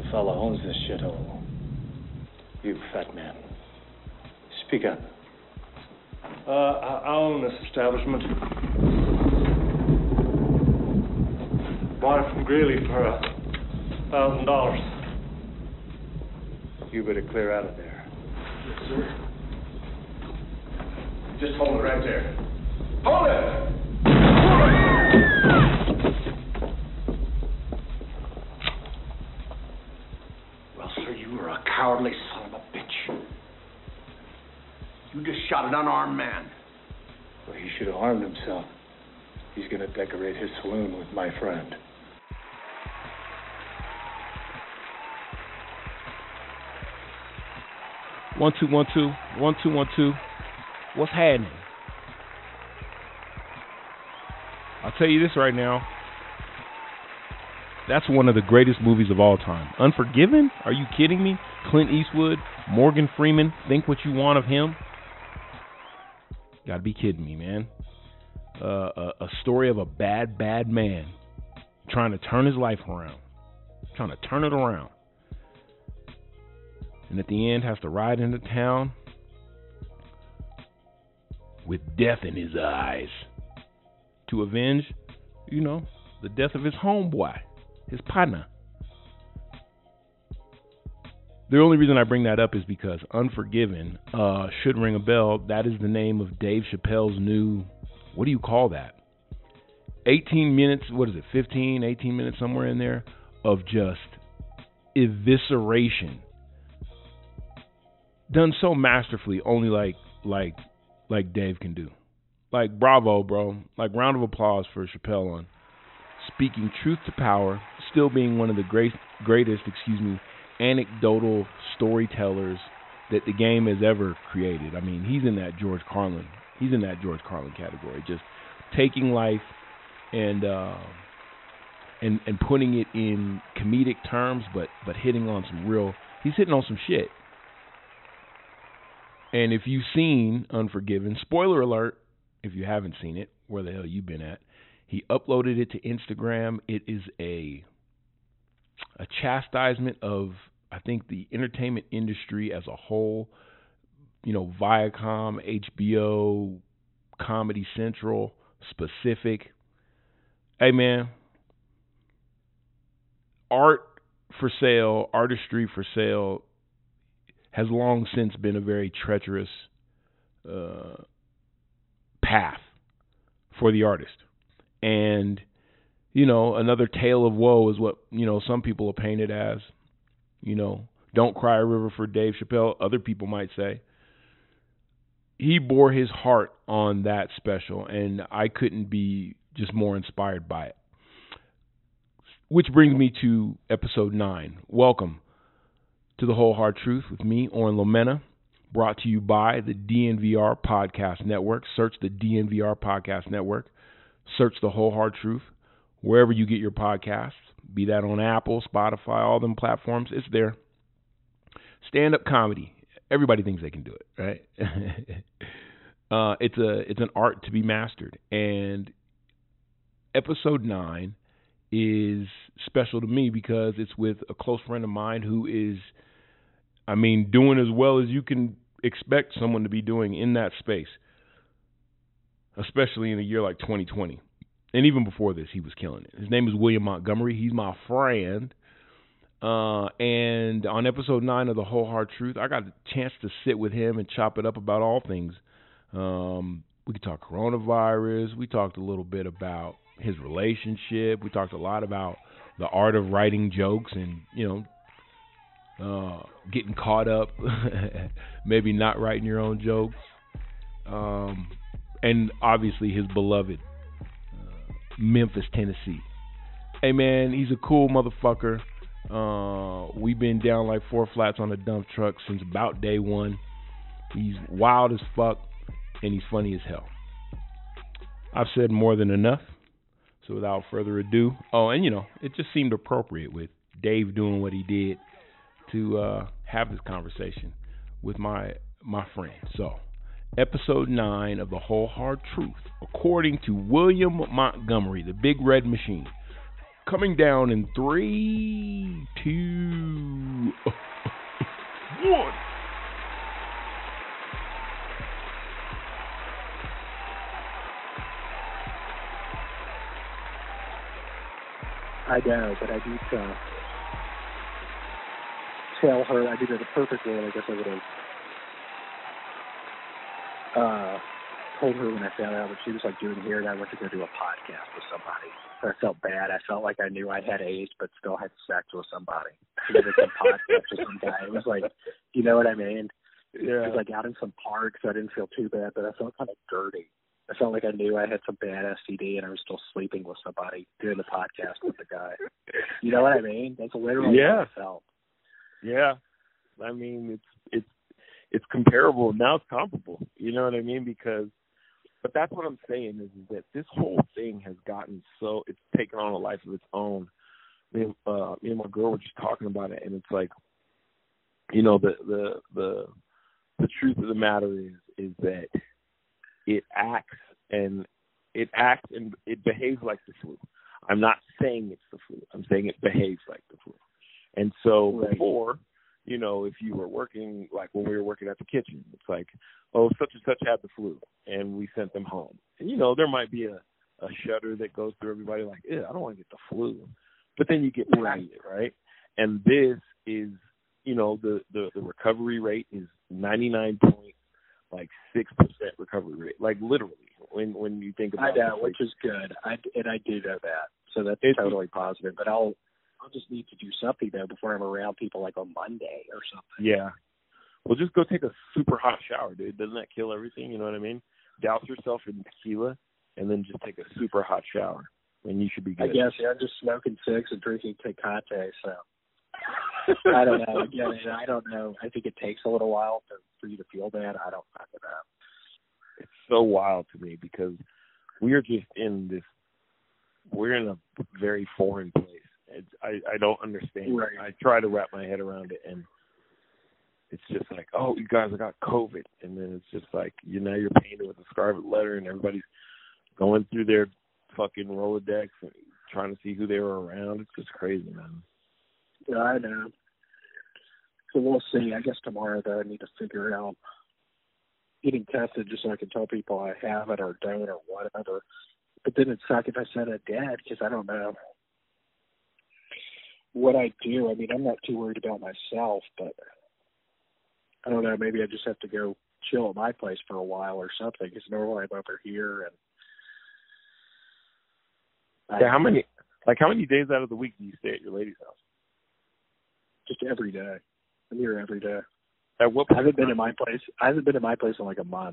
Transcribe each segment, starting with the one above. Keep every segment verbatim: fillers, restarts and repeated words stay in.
fella owns this shithole. You, fat man. Speak up. Uh, I I own this establishment. Bought it from Greeley for a thousand dollars. You better clear out of there. Yes, sir. Just hold it right there. Hold it! Well, sir, you are a cowardly son of a bitch. You just shot an unarmed man. Well, he should have armed himself. He's gonna decorate his saloon with my friend. One, two, one, two. One, two, one, two. What's happening? I'll tell you this right now. That's one of the greatest movies of all time. Unforgiven? Are you kidding me? Clint Eastwood, Morgan Freeman, think what you want of him. Gotta be kidding me, man. Uh, a, a story of a bad, bad man trying to turn his life around. Trying to turn it around. And at the end has to ride into town with death in his eyes to avenge, you know, the death of his homeboy, his partner. The only reason I bring that up is because Unforgiven uh, should ring a bell. That is the name of Dave Chappelle's new, what do you call that? eighteen minutes, what is it, fifteen, eighteen minutes, somewhere in there, of just evisceration. Done so masterfully, only like like like Dave can do. Like, bravo, bro. Like, round of applause for Chappelle on speaking truth to power, still being one of the great, greatest, excuse me, anecdotal storytellers that the game has ever created. I mean, he's in that George Carlin. He's in that George Carlin category. Just taking life and uh, and and putting it in comedic terms, but but hitting on some real. He's hitting on some shit. And if you've seen Unforgiven, spoiler alert, if you haven't seen it, where the hell you been at? He uploaded it to Instagram. It is a a chastisement of, I think, the entertainment industry as a whole. You know, Viacom, H B O, Comedy Central, specific. Hey, man, art for sale, artistry for sale, has long since been a very treacherous uh, path for the artist. And, you know, another tale of woe is what, you know, some people are painted as. You know, don't cry a river for Dave Chappelle, other people might say. He bore his heart on that special, and I couldn't be just more inspired by it. Which brings me to episode nine. Welcome to The Whole Hard Truth with me, Oren Lomena, brought to you by the D N V R Podcast Network. Search the D N V R Podcast Network. Search The Whole Hard Truth wherever you get your podcasts, be that on Apple, Spotify, all them platforms. It's there. Stand-up comedy. Everybody thinks they can do it, right? uh, it's a it's an art to be mastered. And episode nine is special to me because it's with a close friend of mine who is, I mean, doing as well as you can expect someone to be doing in that space, especially in a year like twenty twenty. And even before this, he was killing it. His name is William Montgomery. He's my friend. Uh, and on episode nine of The Whole Hard Truth, I got a chance to sit with him and chop it up about all things. Um, we could talk coronavirus. We talked a little bit about his relationship. We talked a lot about the art of writing jokes and, you know, uh, getting caught up, maybe not writing your own jokes. Um, and obviously his beloved uh, Memphis, Tennessee. Hey, man, he's a cool motherfucker. Uh, we've been down like four flats on a dump truck since about day one. He's wild as fuck, and he's funny as hell. I've said more than enough, so without further ado, oh, and you know, it just seemed appropriate with Dave doing what he did to uh, have this conversation with my my friend. So, episode nine of The Whole Hard Truth, according to William Montgomery, the Big Red Machine. Coming down in three, two, one. I know, but I do uh, tell her, I did it in a perfect world, I guess I would have uh, told her when I found out what she was like doing here, and I went to go do a podcast with somebody. So I felt bad. I felt like I knew I had AIDS, but still had sex with somebody. I did some podcast with some guy. It was like, you know what I mean? Yeah. It was like out in some park, so I didn't feel too bad, but I felt kind of dirty. I felt like I knew I had some bad S T D, and I was still sleeping with somebody doing the podcast with the guy. You know what I mean? That's literally Yeah. how I felt. Yeah. I mean, it's it's it's comparable. Now it's comparable. You know what I mean? Because, but that's what I'm saying is, is that this whole thing has gotten so, it's taken on a life of its own. Me and, uh, me and my girl were just talking about it, and it's like, you know, the the the the truth of the matter is is that it acts and it acts and it behaves like the flu. I'm not saying it's the flu. I'm saying it behaves like the flu. And so Right. before, you know, if you were working, like when we were working at the kitchen, it's like, oh, such and such had the flu, and we sent them home. And, you know, there might be a, a shudder that goes through everybody like, yeah, I don't want to get the flu. But then you get past it, right? And this is, you know, the, the, the recovery rate is ninety-nine point like six percent recovery rate, like literally when when you think about I know, it. which is good. I and I do know that, so that's It's- totally positive. But I'll I'll just need to do something though before I'm around people like on Monday or something. Yeah. Well, just go take a super hot shower, dude. Doesn't that kill everything? You know what I mean? Douse yourself in tequila and then just take a super hot shower, and you should be I good. guess yeah, I'm just smoking cigs and drinking Tecate, so I don't know. Again, I don't know. I think it takes a little while to, for you to feel bad. I don't fucking know. It's so wild to me because we are just in this. We're in a very foreign place. It's, I I don't understand. Right. I try to wrap my head around it, and it's just like, oh, you guys, I got COVID, and then it's just like, you know, you're painted with a scarlet letter, and everybody's going through their fucking Rolodex and trying to see who they were around. It's just crazy, man. Yeah, I know. So we'll see. I guess tomorrow though I need to figure out getting tested just so I can tell people I have it or don't or whatever. But then it's like if I said I did because I don't know what I do. I mean, I'm not too worried about myself, but I don't know. Maybe I just have to go chill at my place for a while or something because normally I'm over here and. I, Yeah, how many, like, how many days out of the week do you stay at your lady's house? Just every day. I'm here every day. At what I point? haven't been in my place. I haven't been in my place in like a month.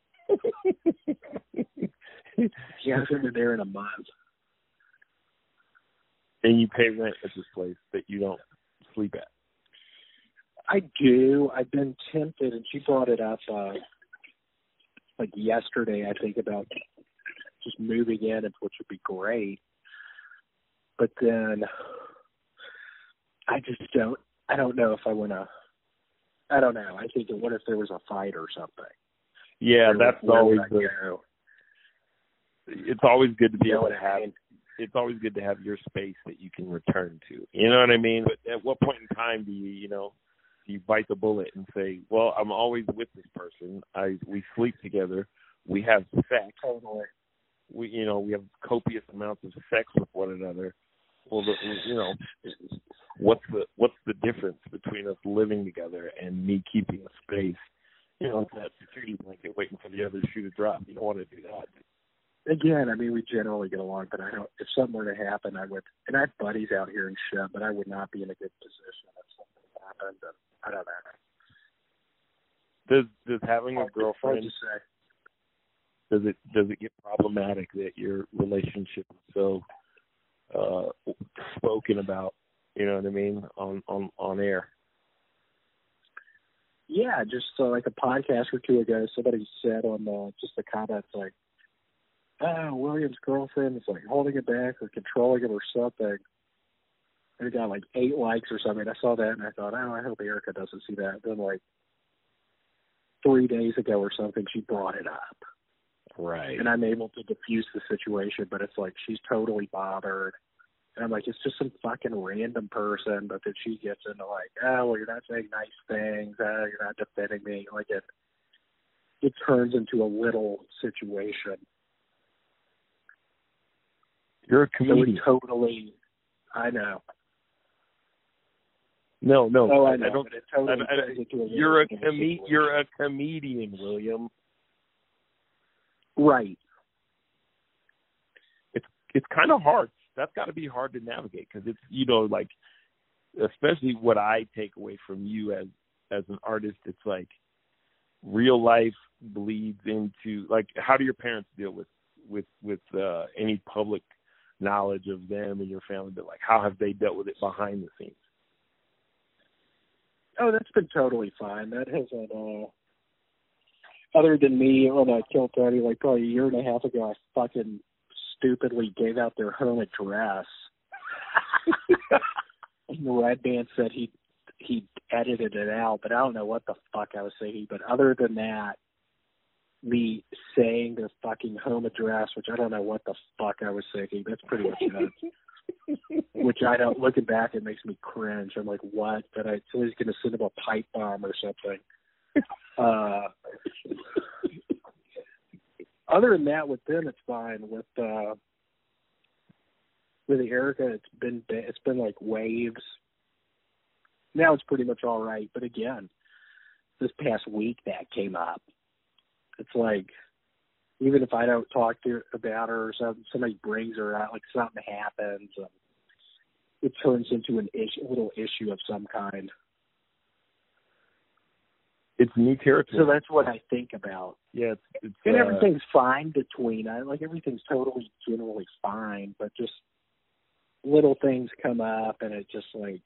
Yeah, I haven't been there in a month. And you pay rent at this place that you don't sleep at. I do. I've been tempted, and she brought it up uh, like yesterday, I think, about just moving in, which would be great. But then I just don't. I don't know if I want to. I don't know. I think, what if there was a fight or something? Yeah, Where- that's where always would I the, go? it's always good to be You know able what to I have mean? it's always good to have your space that you can return to. You know what I mean? But at what point in time do you, you know, do you bite the bullet and say, well, I'm always with this person. I we sleep together. We have sex. Totally. We, you know, we have copious amounts of sex with one another. Well, the, you know, what's the what's the difference between us living together and me keeping a space? You know, it's that security blanket waiting for the other shoe to drop. You don't want to do that. Again, I mean, we generally get along, but I don't. If something were to happen, I would. And I have buddies out here and shit, but I would not be in a good position if something happened. And I don't know. Does does having a Hard girlfriend to say. does it does it get problematic that your relationship is so uh, spoken about? You know what I mean on on on air. Yeah, just uh, like a podcast or two ago, somebody said on the, just the comments like, "Oh, William's girlfriend is like holding it back or controlling it or something." And it got like eight likes or something. I saw that and I thought, "Oh, I hope Erica doesn't see that." Then like three days ago or something, she brought it up. Right. And I'm able to diffuse the situation, but it's like she's totally bothered. And I'm like, it's just some fucking random person. But then she gets into like, oh, well, you're not saying nice things. Oh, you're not defending me. Like it, it turns into a little situation. You're a So comedian. it totally, I know. No, no, Oh, I I, know. I don't. But it totally I, I, turns into a little you're a bit of com- situation. You're a comedian, William. Right. It's it's kind of hard. That's got to be hard to navigate because it's, you know, like, especially what I take away from you as as an artist. It's like real life bleeds into, like, how do your parents deal with with with uh, any public knowledge of them and your family? But like, how have they dealt with it behind the scenes? Oh, that's been totally fine. That hasn't, uh, other than me when I killed Tony, like probably a year and a half ago, I fucking stupidly gave out their home address. And the Red Band said he he edited it out, but I don't know what the fuck I was saying. But other than that, me saying their fucking home address, which I don't know what the fuck I was thinking, that's pretty much it. Which I don't, looking back, it makes me cringe. I'm like, what? But I, somebody's going to send him a pipe bomb or something. Uh, other than that, with them, it's fine. With uh, with Erica, it's been it's been like waves. Now it's pretty much all right. But again, this past week that came up. It's like, even if I don't talk to her about her or something, somebody brings her out, like something happens, um, it turns into an issue, a little issue of some kind. It's new territory. So that's what I think about. Yeah, it's, it's And uh, everything's fine between, I like everything's totally generally fine, but just little things come up, and it just like,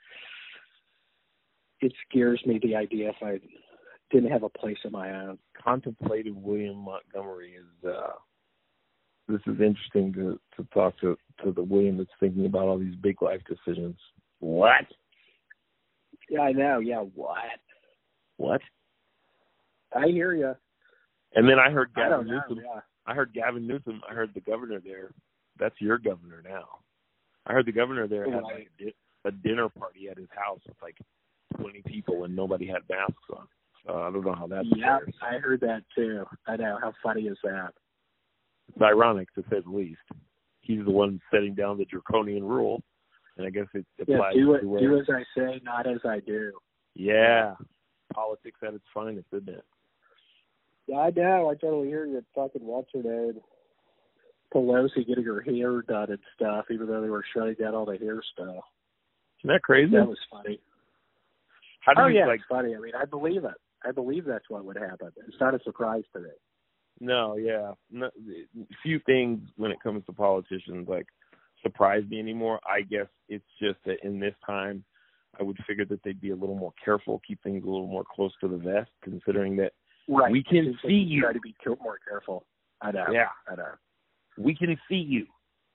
it scares me, the idea if I didn't have a place of my own. contemplative William Montgomery is. Uh, this is interesting to to talk to to the William that's thinking about all these big life decisions. What? Yeah, I know. Yeah, what? What? I hear you. And then I heard I Gavin don't know. Newsom. Yeah. I heard Gavin Newsom. I heard the governor there. That's your governor now. I heard the governor there had like a, di- a dinner party at his house with like twenty people and nobody had masks on. So I don't know how that. Yeah, fares. I heard that too. I know. How funny is that? It's ironic to say the least. He's the one setting down the draconian rule, and I guess it Yeah, applies do, it, to where. do as I say, not as I do. Yeah, politics at its finest, isn't it? Yeah, I know. I totally hear you. Fucking what's her name? Pelosi getting her hair done and stuff, even though they were shutting down all the hair stuff. Isn't that crazy? That was funny. How do Oh you yeah, like? it's funny. I mean, I believe it. I believe that's what would happen. It's not a surprise to me. No, yeah, no, few things when it comes to politicians like surprise me anymore. I guess it's just that in this time, I would figure that they'd be a little more careful, keep things a little more close to the vest, considering that Right. we can It's like see you you. try to be more careful. I know. Yeah, I know. we can see you.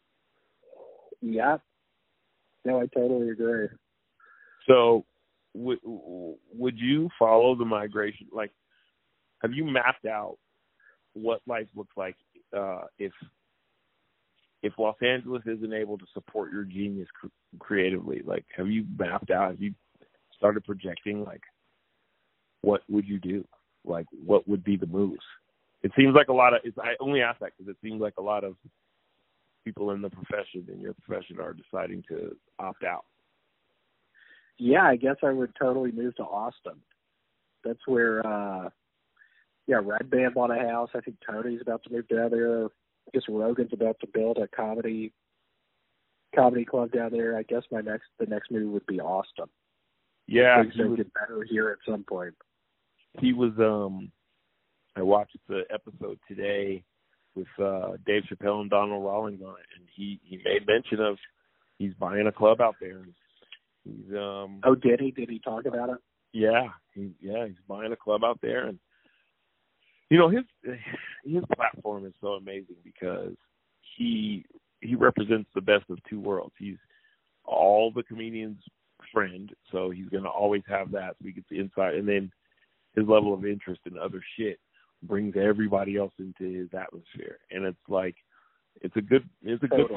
Yeah. No, I totally agree. So, would would you follow the migration? Like, have you mapped out what life looks like uh, if if Los Angeles isn't able to support your genius cr- creatively? Like, have you mapped out? Have you started projecting? Like, what would you do? Like, what would be the moves? It seems like a lot of. It's, I only ask that because it seems like a lot of people in the profession, in your profession, are deciding to opt out. Yeah, I guess I would totally move to Austin. That's where, uh, yeah, Red Band bought a house. I think Tony's about to move down there. I guess Rogan's about to build a comedy comedy club down there. I guess my next the next move would be Austin. Yeah, Things he will was, get better here at some point. he was. Um, I watched the episode today with uh, Dave Chappelle and Donald Rawlings on it, and he, he made mention of he's buying a club out there. He's um. Oh, did he? Did he talk about it? Yeah, he yeah he's buying a club out there, and you know his his platform is so amazing because he he represents the best of two worlds. He's all the comedians' friend, so he's gonna always have that. So he gets the insight, and then his level of interest in other shit brings everybody else into his atmosphere, and it's like it's a good it's a Totally. good place to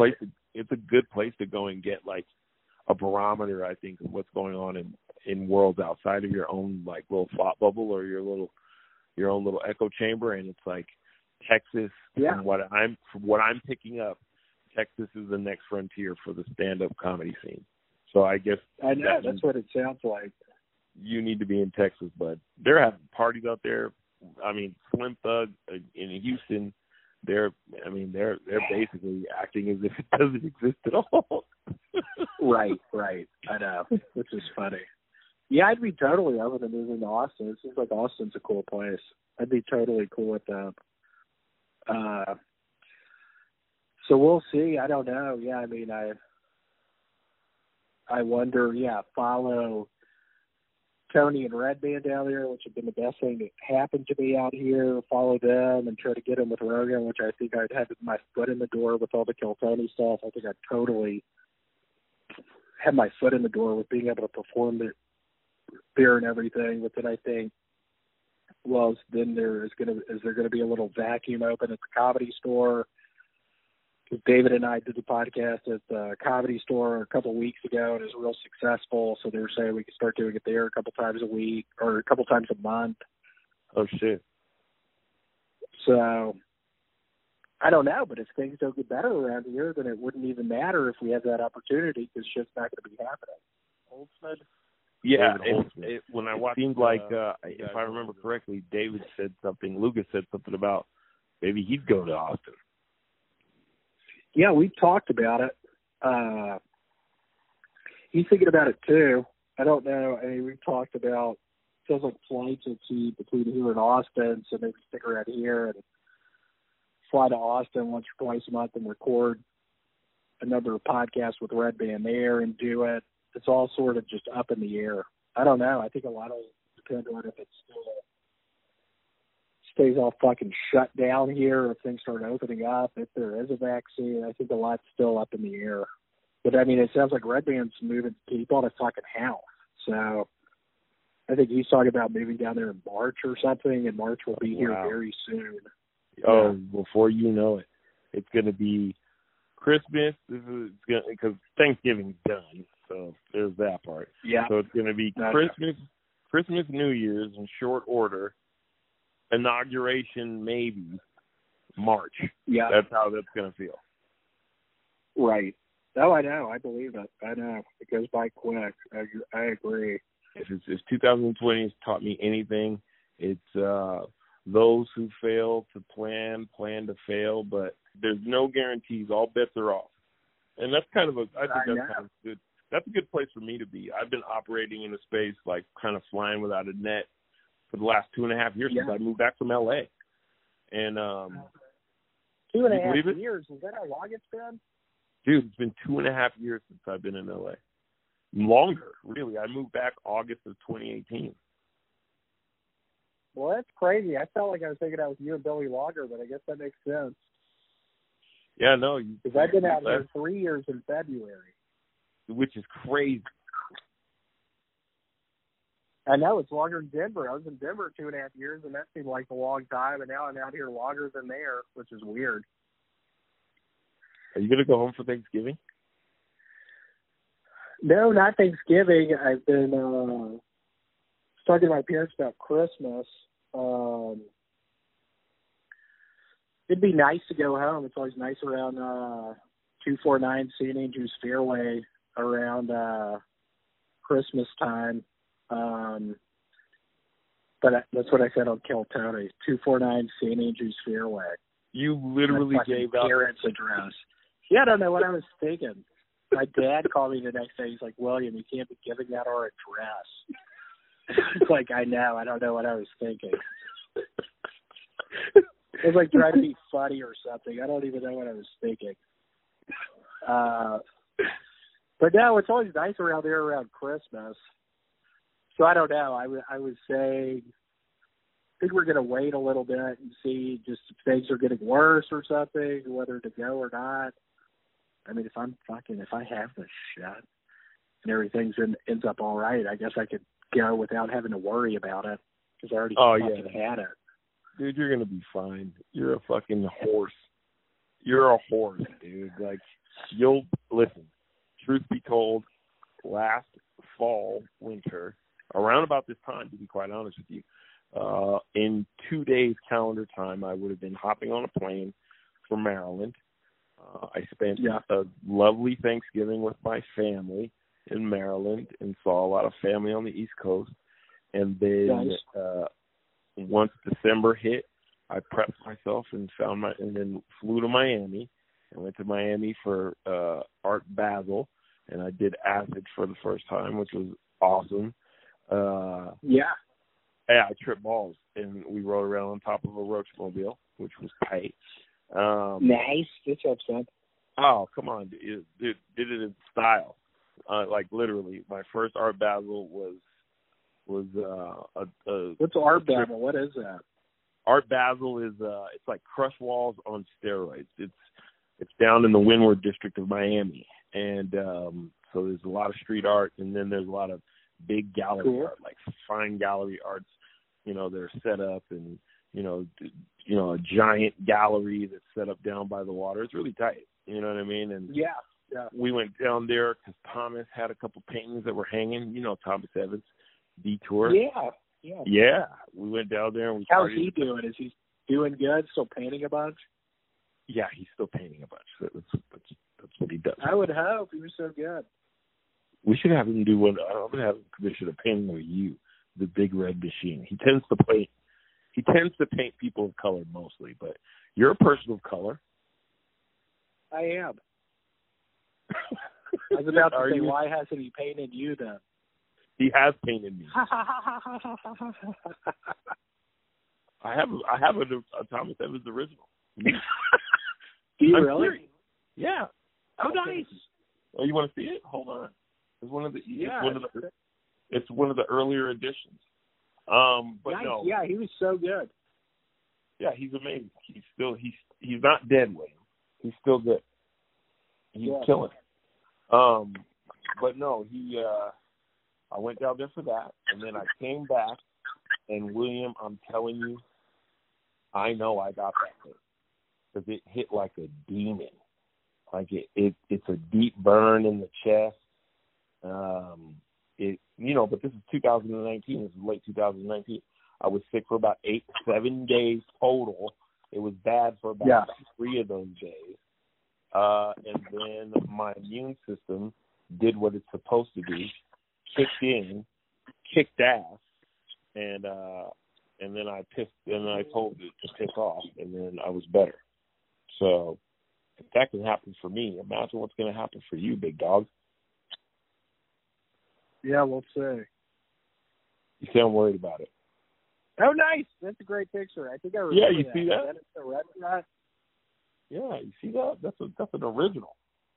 it's a good place to go and get like a barometer, I think, of what's going on in, in worlds outside of your own like little thought bubble or your little your own little echo chamber. And it's like Texas, Yeah. from what I'm from what I'm picking up, Texas is the next frontier for the stand-up comedy scene. So I guess I know, that that's what it sounds like. you need to be in Texas, but they're having parties out there. I mean, Slim Thug uh, in Houston, they're, I mean, they're they're basically acting as if it doesn't exist at all. Right, right. I know, which is funny. Yeah, I'd be totally open to moving to Austin. It seems like Austin's a cool place. I'd be totally cool with that. Uh, so we'll see. I don't know. Yeah, I mean, I, I wonder. Yeah, follow Tony and Redband down there, which have been the best thing that happened to me out here. Follow them and try to get them with Rogan, which I think I'd have my foot in the door with all the Kill Tony stuff. I think I'd totally have my foot in the door with being able to perform the beer and everything. But then I think, well, then there is going to is there going to be a little vacuum open at the Comedy Store? Because David and I did the podcast at the Comedy Store a couple of weeks ago, and it was real successful. So they were saying we could start doing it there a couple times a week or a couple times a month. Oh shit! So I don't know, but if things don't get better around here, then it wouldn't even matter if we have that opportunity because shit's not going to be happening. Holtzman? Yeah, David it, it, when I watched, it seemed like uh, if I remember correctly, David said something. Lucas said something about maybe he'd go to Austin. Yeah, we talked about it. Uh, he's thinking about it too. I don't know. I mean, we've talked about, feels like flights are cheap between here and Austin, so maybe stick around here and fly to Austin once or twice a month and record a number of podcasts with Red Band there and do it. It's all sort of just up in the air. I don't know. I think a lot of it depends on if it's still stays all fucking shut down here, or if things start opening up, if there is a vaccine. I think a lot's still up in the air. But, I mean, it sounds like Red Band's moving. He bought a fucking house. So I think he's talking about moving down there in March or something, and March will be here Wow. very soon. Oh, yeah. Before you know it, it's going to be Christmas. This is going because Thanksgiving's done, so there's that part. Yeah. So it's going to be Okay. Christmas, Christmas, New Year's in short order. Inauguration maybe March. Yeah. That's how that's going to feel. Right. Oh, I know. I believe it. I know. It goes by quick. I, I agree. If, it's, if two thousand twenty has taught me anything, it's uh, those who fail to plan, plan to fail, but there's no guarantees. All bets are off. And that's kind of a, I think I that's know. kind of good. That's a good place for me to be. I've been operating in a space like kind of flying without a net for the last two and a half years Yeah. since I moved back from L A. And, um, Two and a you half believe it? years. Is that how long it's been? dude, it's been two and a half years since I've been in L A. Longer, really. I moved back August of twenty eighteen. Well, that's crazy. I felt like I was thinking out with you and Billy Lager, but I guess that makes sense. Yeah, no. you- Because I've been out that- here three years in February. Which is crazy. I know, it's longer than Denver. I was in Denver two and a half years, and that seemed like a long time, and now I'm out here longer than there, which is weird. Are you going to go home for Thanksgiving? No, not Thanksgiving. I've been uh, talking to my parents about Christmas. Um, it'd be nice to go home. It's always nice around uh, two forty-nine Saint Andrews Fairway around uh, Christmas time. Um, but I, that's what I said on Kill Tony, two forty-nine Saint Andrews Fairway. You literally My gave fucking out. parents' address. Yeah, I don't know what I was thinking. My dad called me the next day. He's like, William, you can't be giving out our address. It's like, I know. I don't know what I was thinking. It was like trying to be funny or something. I don't even know what I was thinking. Uh, but no, it's always nice around there around Christmas. So I don't know. I, w- I was saying, I think we're going to wait a little bit and see just if things are getting worse or something, whether to go or not. I mean, if I'm fucking, if I have the shot and everything's in, ends up all right, I guess I could go without having to worry about it because I already Oh, fucking yeah. had it. Dude, you're going to be fine. You're a fucking horse. You're a horse, dude. Like, you'll listen. Truth be told, last fall, winter, around about this time, to be quite honest with you, uh, in two days calendar time, I would have been hopping on a plane for Maryland. Uh, I spent Yeah. a lovely Thanksgiving with my family in Maryland and saw a lot of family on the East Coast. And then Nice. uh, once December hit, I prepped myself and found my and then flew to Miami. I went to Miami for uh, Art Basel, and I did acid for the first time, which was awesome. Uh, Yeah. yeah, I tripped balls, and we rode around on top of a roach mobile, which was tight. Um, Nice. Good job, son. Oh, come on. It, it did it in style. Uh, like, literally, my first Art Basel was was uh, a, a What's Art Basel? What is that? Art Basel is uh, it's like Crush Walls on steroids. It's it's down in the Windward district of Miami, and um, so there's a lot of street art, and then there's a lot of big gallery Cool. art, like fine gallery arts. You know, they're set up, and you know, d- you know, a giant gallery that's set up down by the water. It's really tight. You know what I mean? And Yeah. Yeah. we went down there because Thomas had a couple paintings that were hanging. You know, Thomas Evans, Detour. Yeah. Yeah. Yeah, we went down there and we How's started. he doing? Is he doing good? Still painting a bunch? Yeah, he's still painting a bunch. That's that's, that's what he does. I would hope. He was so good. We should have him do one. I'm gonna have him commission a painting of you, the Big Red Machine. He tends to paint. He tends to paint people of color mostly, but you're a person of color. I am. I was about to Are say, you? why hasn't he painted you then? He has painted me. I have I have a, a Thomas Evans original. Do you I'm really? serious. Yeah. Oh, nice. Oh, you want to see it? Hold on. It's one of the. Yeah. It's one of the. It's one of the earlier editions. Um, but nice. no. Yeah, he was so good. Yeah, he's amazing. He's still he's he's not dead, William. He's still good. He's Yeah. killing it. Um, but no, he. Uh, I went down there for that, and then I came back, and William, I'm telling you, I know I got that thing because it hit like a demon. Like it, it, it's a deep burn in the chest. Um, it, you know, but this is two thousand nineteen. This is late two thousand nineteen. I was sick for about eight, seven days total. It was bad for about Yeah. three of those days. Uh, and then my immune system did what it's supposed to do, kicked in, kicked ass, and uh, and then I pissed, and then I told it to piss off, and then I was better. So if that can happen for me, imagine what's going to happen for you, big dog. Yeah, we'll see. You sound worried about it. Oh, nice. That's a great picture. I think I remember Yeah, you that. see that? Is that the red shot? Yeah, you see that? That's a that's an original.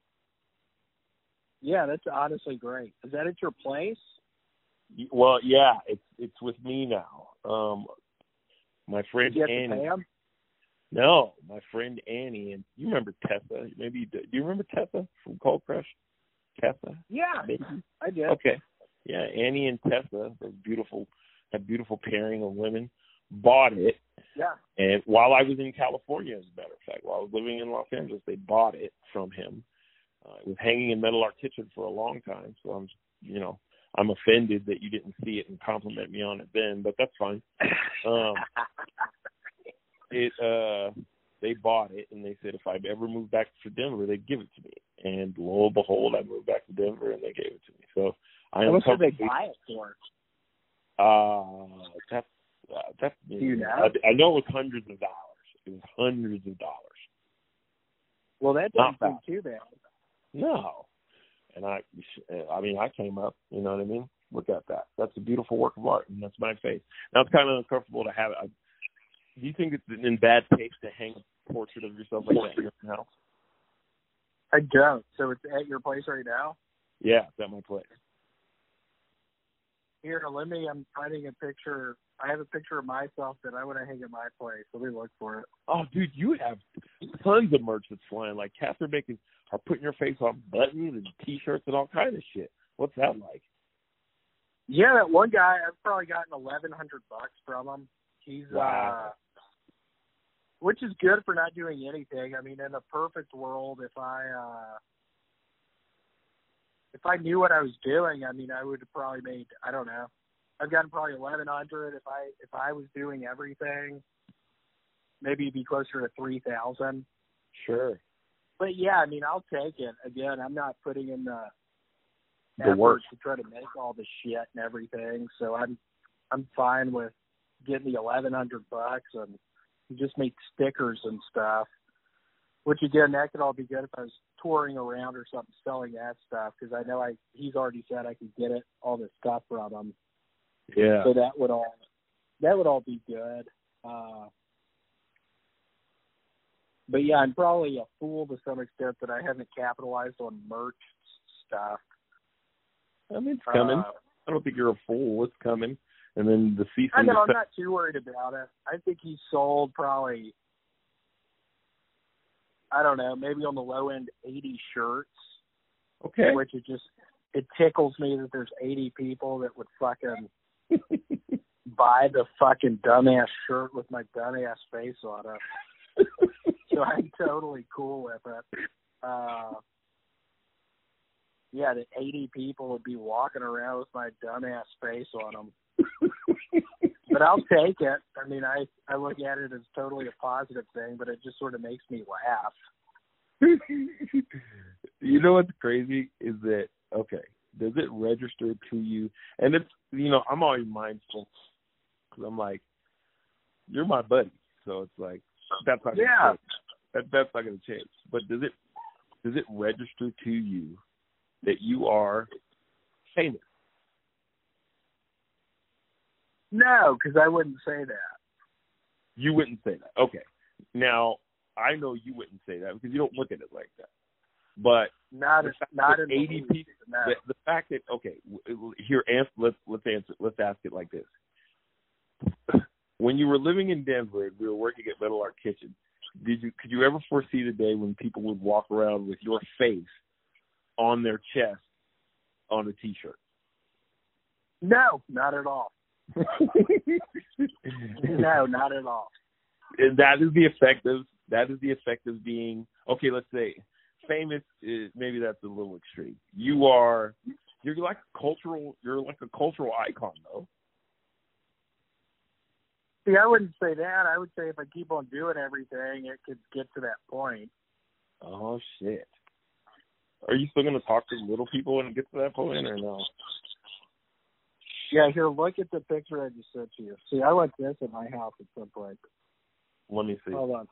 Yeah, that's honestly great. Is that at your place? Well, yeah, it's it's with me now. Um, my friend Did you have to Annie. pay him? No, my friend Annie, and you remember Tessa? Maybe you do. Do you remember Tessa from Cold Crush? Tessa? Yeah, Maybe. I did. Okay. Yeah, Annie and Tessa, those beautiful, that beautiful pairing of women, bought it. Yeah. And while I was in California, as a matter of fact, while I was living in Los Angeles, they bought it from him. Uh, it was hanging in Metal Art Kitchen for a long time, so I'm, you know, I'm offended that you didn't see it and compliment me on it then, but that's fine. Um, it, uh, they bought it, and they said if I ever moved back to Denver, they'd give it to me. And lo and behold, I moved back to Denver, and they gave it to me. So I How am much did they comfortably- buy it for? Uh, that's uh, that's. Do you know? I, I know it was hundreds of dollars. It was hundreds of dollars. Well, that Not doesn't seem too bad. No, and I, I mean, I came up. You know what I mean? Look at that. That's a beautiful work of art, and that's my face. Now it's kind of uncomfortable to have it. I, do you think it's in bad taste to hang a portrait of yourself like that in your house? I don't. So it's at your place right now? Yeah, it's at my place. Here, let me, I'm finding a picture. I have a picture of myself that I want to hang at my place. Let me look for it. Oh, dude, you have tons of merch that's flying. Like, Catherine Bacon are putting your face on buttons and T-shirts and all kinds of shit. What's that like? Yeah, that one guy, I've probably gotten eleven hundred bucks from him. He's, Wow. uh, which is good for not doing anything. I mean, in a perfect world, if I uh, if I knew what I was doing, I mean, I would have probably made, I don't know, I've gotten probably eleven hundred. If I if I was doing everything, maybe it'd be closer to three thousand. Sure. But yeah, I mean, I'll take it. Again, I'm not putting in the, The effort work. to try to make all the shit and everything. So I'm I'm fine with getting the eleven hundred bucks and just make stickers and stuff. Which again, that could all be good if I was touring around or something selling that stuff, because I know I he's already said I could get it all this stuff from him. Yeah. So that would all that would all be good. Uh, but yeah, I'm probably a fool to some extent that I haven't capitalized on merch stuff. I mean, it's coming. Uh, I don't think you're a fool. It's coming. And then the cease I and know, I'm desist- not too worried about it. I think he sold probably, I don't know, maybe on the low end eighty shirts. Okay. Which is just, it tickles me that there's eighty people that would fucking buy the fucking dumbass shirt with my dumbass face on it. So I'm totally cool with it. Uh, yeah, that eighty people would be walking around with my dumbass face on them. But I'll take it. I mean, I, I look at it as totally a positive thing, but it just sort of makes me laugh. You know what's crazy is that, okay, does it register to you? And it's, you know, I'm always mindful because I'm like, you're my buddy. So it's like, that's not going to Yeah. change. That, that's not going to change. But does it, does it register to you that you are famous? No, because I wouldn't say that. You wouldn't say that. Okay. Now, I know you wouldn't say that because you don't look at it like that. But Not, the as, fact not that in the eighty least, people, no. the, the fact that, okay, w- here, answer, let's, let's answer, let's ask it like this. When you were living in Denver and we were working at Metal Art Kitchen, did you, could you ever foresee the day when people would walk around with your face on their chest on a T-shirt? No, not at all. No, not at all. And that is the effect of that is the effect of being, okay, let's say famous is, maybe that's a little extreme. You are you're like a cultural you're like a cultural icon though. See, I wouldn't say that. I would say if I keep on doing everything, it could get to that point. Oh shit. Are you still gonna talk to little people when it gets to that point or no? Yeah, here, look at the picture I just sent to you. See, I like this at my house at some point. Let me see. Hold on.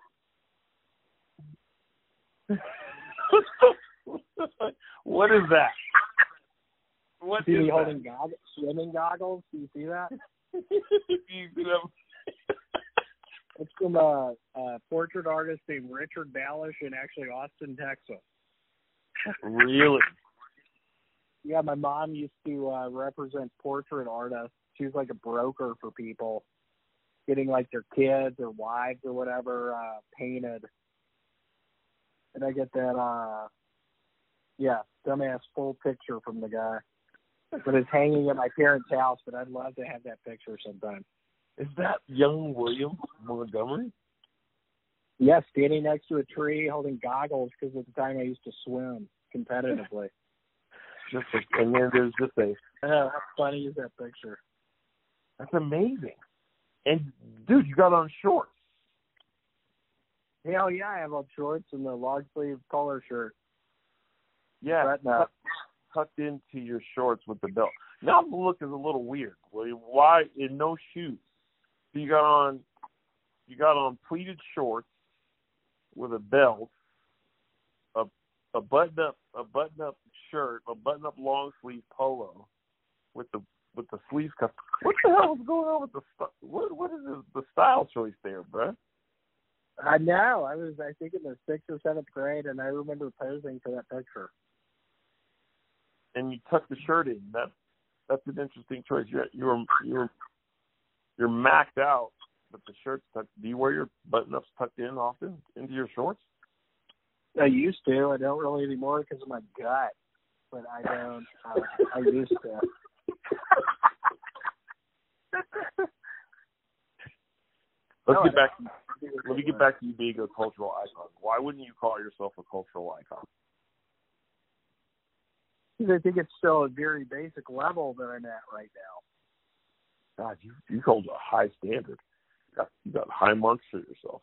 What is that? What See is me that? holding goggles, swimming goggles? Do you see that? You see that? It's from a, a portrait artist named Richard Balish in actually Austin, Texas. Really? Yeah, my mom used to uh, represent portrait artists. She was like a broker for people getting like their kids or wives or whatever uh, painted. And I get that, uh, yeah, dumbass full picture from the guy. But it's hanging at my parents' house, but I'd love to have that picture sometime. Is that young William Montgomery? Yeah, standing next to a tree holding goggles because at the time I used to swim competitively. Just a, and then there's just a. Oh, how funny is that picture? That's amazing. And dude, you got on shorts. Hell yeah, I have on shorts and the long sleeve collar shirt. Yeah, Button up. tucked, tucked into your shorts with the belt. Now the look is a little weird. William. Why in no shoes? So you got on, you got on pleated shorts with a belt, a a button up a button up shirt, a button up long sleeve polo, with the with the sleeves cut. What the hell is going on with the st- what what is the, the style choice there, bruh? I know. I was, I think, in the sixth or seventh grade, and I remember posing for that picture. And you tuck the shirt in. That that's an interesting choice. You're you're you're you're maxed out, but the shirt's tucked. Do you wear your button-ups tucked in often into your shorts? I used to. I don't really anymore because of my gut, but I don't. Uh, I used to. Let's No, get back. let me get back to you being a cultural icon. Why wouldn't you call yourself a cultural icon? Because I think it's still a very basic level that I'm at right now. God, you you hold a high standard. You got, you got high marks for yourself.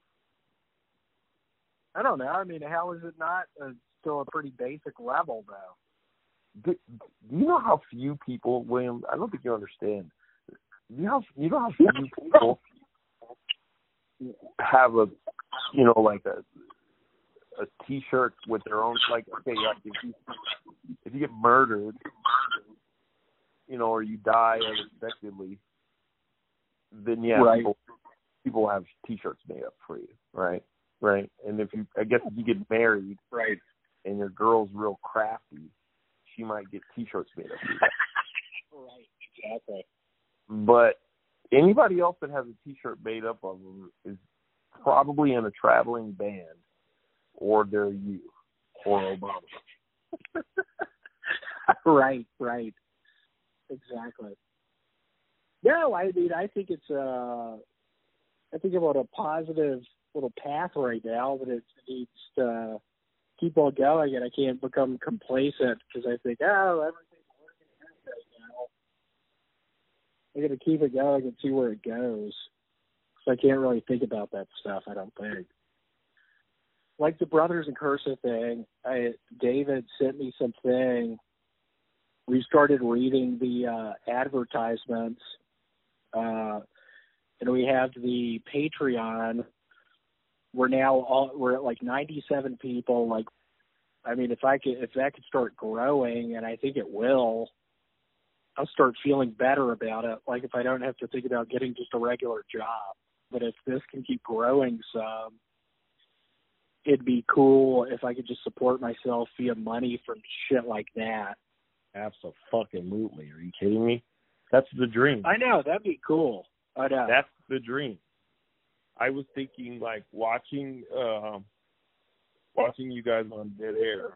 I don't know. I mean, how is it not a, still a pretty basic level, though? Do, do you know how few people, William? I don't think you understand. You know, you know how few people have a, you know, like a a T-shirt with their own, like, okay, like if you if you get murdered, you know, or you die unexpectedly, then yeah, right. people people have T-shirts made up for you, right? Right. And if you, I guess if you get married, right, and your girl's real crafty, she might get T-shirts made up for you. Right. Exactly. But anybody else that has a T-shirt made up of them is probably in a traveling band, or they're you, or Obama. right, right. Exactly. No, I mean, I think it's, uh, I think I'm on a positive little path right now, but it needs to keep on going, and I can't become complacent because I think, oh, everything's working out right now. I got to keep it going and see where it goes. So I can't really think about that stuff, I don't think. Like the Brothers in Cursive thing, I, David sent me something. We started reading the uh, advertisements, uh, and we have the Patreon. We're now all, we're at like ninety-seven people. Like, I mean, if I could, if that could start growing, and I think it will, I'll start feeling better about it. Like if I don't have to think about getting just a regular job, but if this can keep growing some, it'd be cool if I could just support myself via money from shit like that. Absolutely. Are you kidding me? That's the dream. I know, that'd be cool. I know. That's the dream. I was thinking, like, watching uh, watching you guys on Dead Air.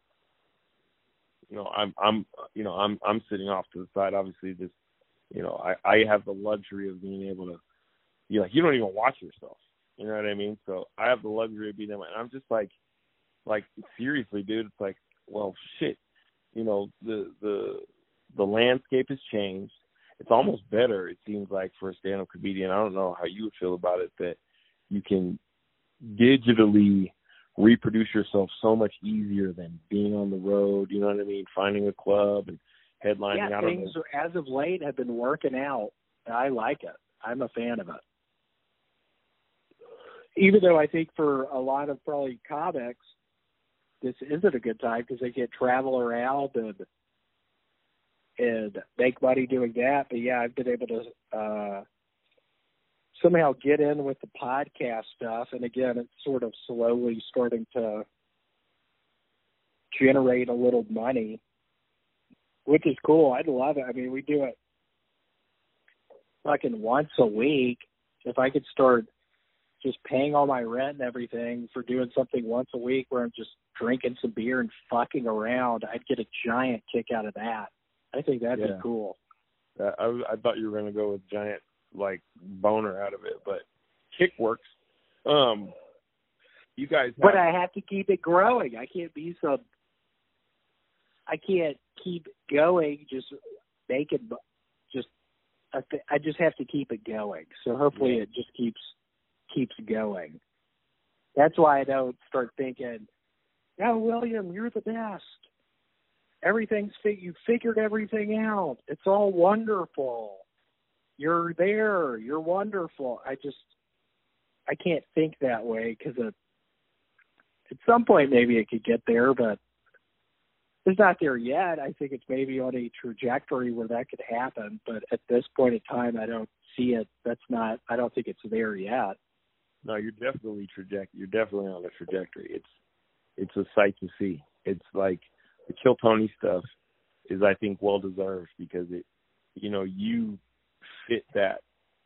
You know, I'm I'm you know I'm I'm sitting off to the side. Obviously, just you know, I, I have the luxury of being able to. You like you don't even watch yourself. You know what I mean? So I have the luxury of being able. And I'm just like, like seriously, dude. It's like, well, shit. You know, the the the landscape has changed. It's almost better, it seems like, for a stand-up comedian. I don't know how you would feel about it, that you can digitally reproduce yourself so much easier than being on the road, you know what I mean, finding a club and headlining. Yeah, I don't things know. as of late have been working out. I like it. I'm a fan of it. Even though I think for a lot of probably comics, this isn't a good time because they can't travel around and and make money doing that. But yeah, I've been able to uh, somehow get in with the podcast stuff. And again, it's sort of slowly starting to generate a little money, which is cool. I'd love it. I mean, we do it fucking once a week. If I could start just paying all my rent and everything for doing something once a week where I'm just drinking some beer and fucking around, I'd get a giant kick out of that. I think that'd Yeah. be cool. Uh, I, I thought you were going to go with giant, like, boner out of it, but kick works. Um, you guys have... But I have to keep it growing. I can't be some... I can't keep going just making... Just... I, th- I just have to keep it going. So hopefully Yeah. it just keeps keeps going. That's why I don't start thinking, "No, William, you're the best. Everything's fi- you figured everything out. It's all wonderful. You're there. You're wonderful." I just, I can't think that way because at some point maybe it could get there, but it's not there yet. I think it's maybe on a trajectory where that could happen, but at this point in time, I don't see it. That's not. I don't think it's there yet. No, you're definitely traject. You're definitely on a trajectory. It's it's a sight to see. It's like the Kill Tony stuff is, I think, well deserved because it, you know, you fit that.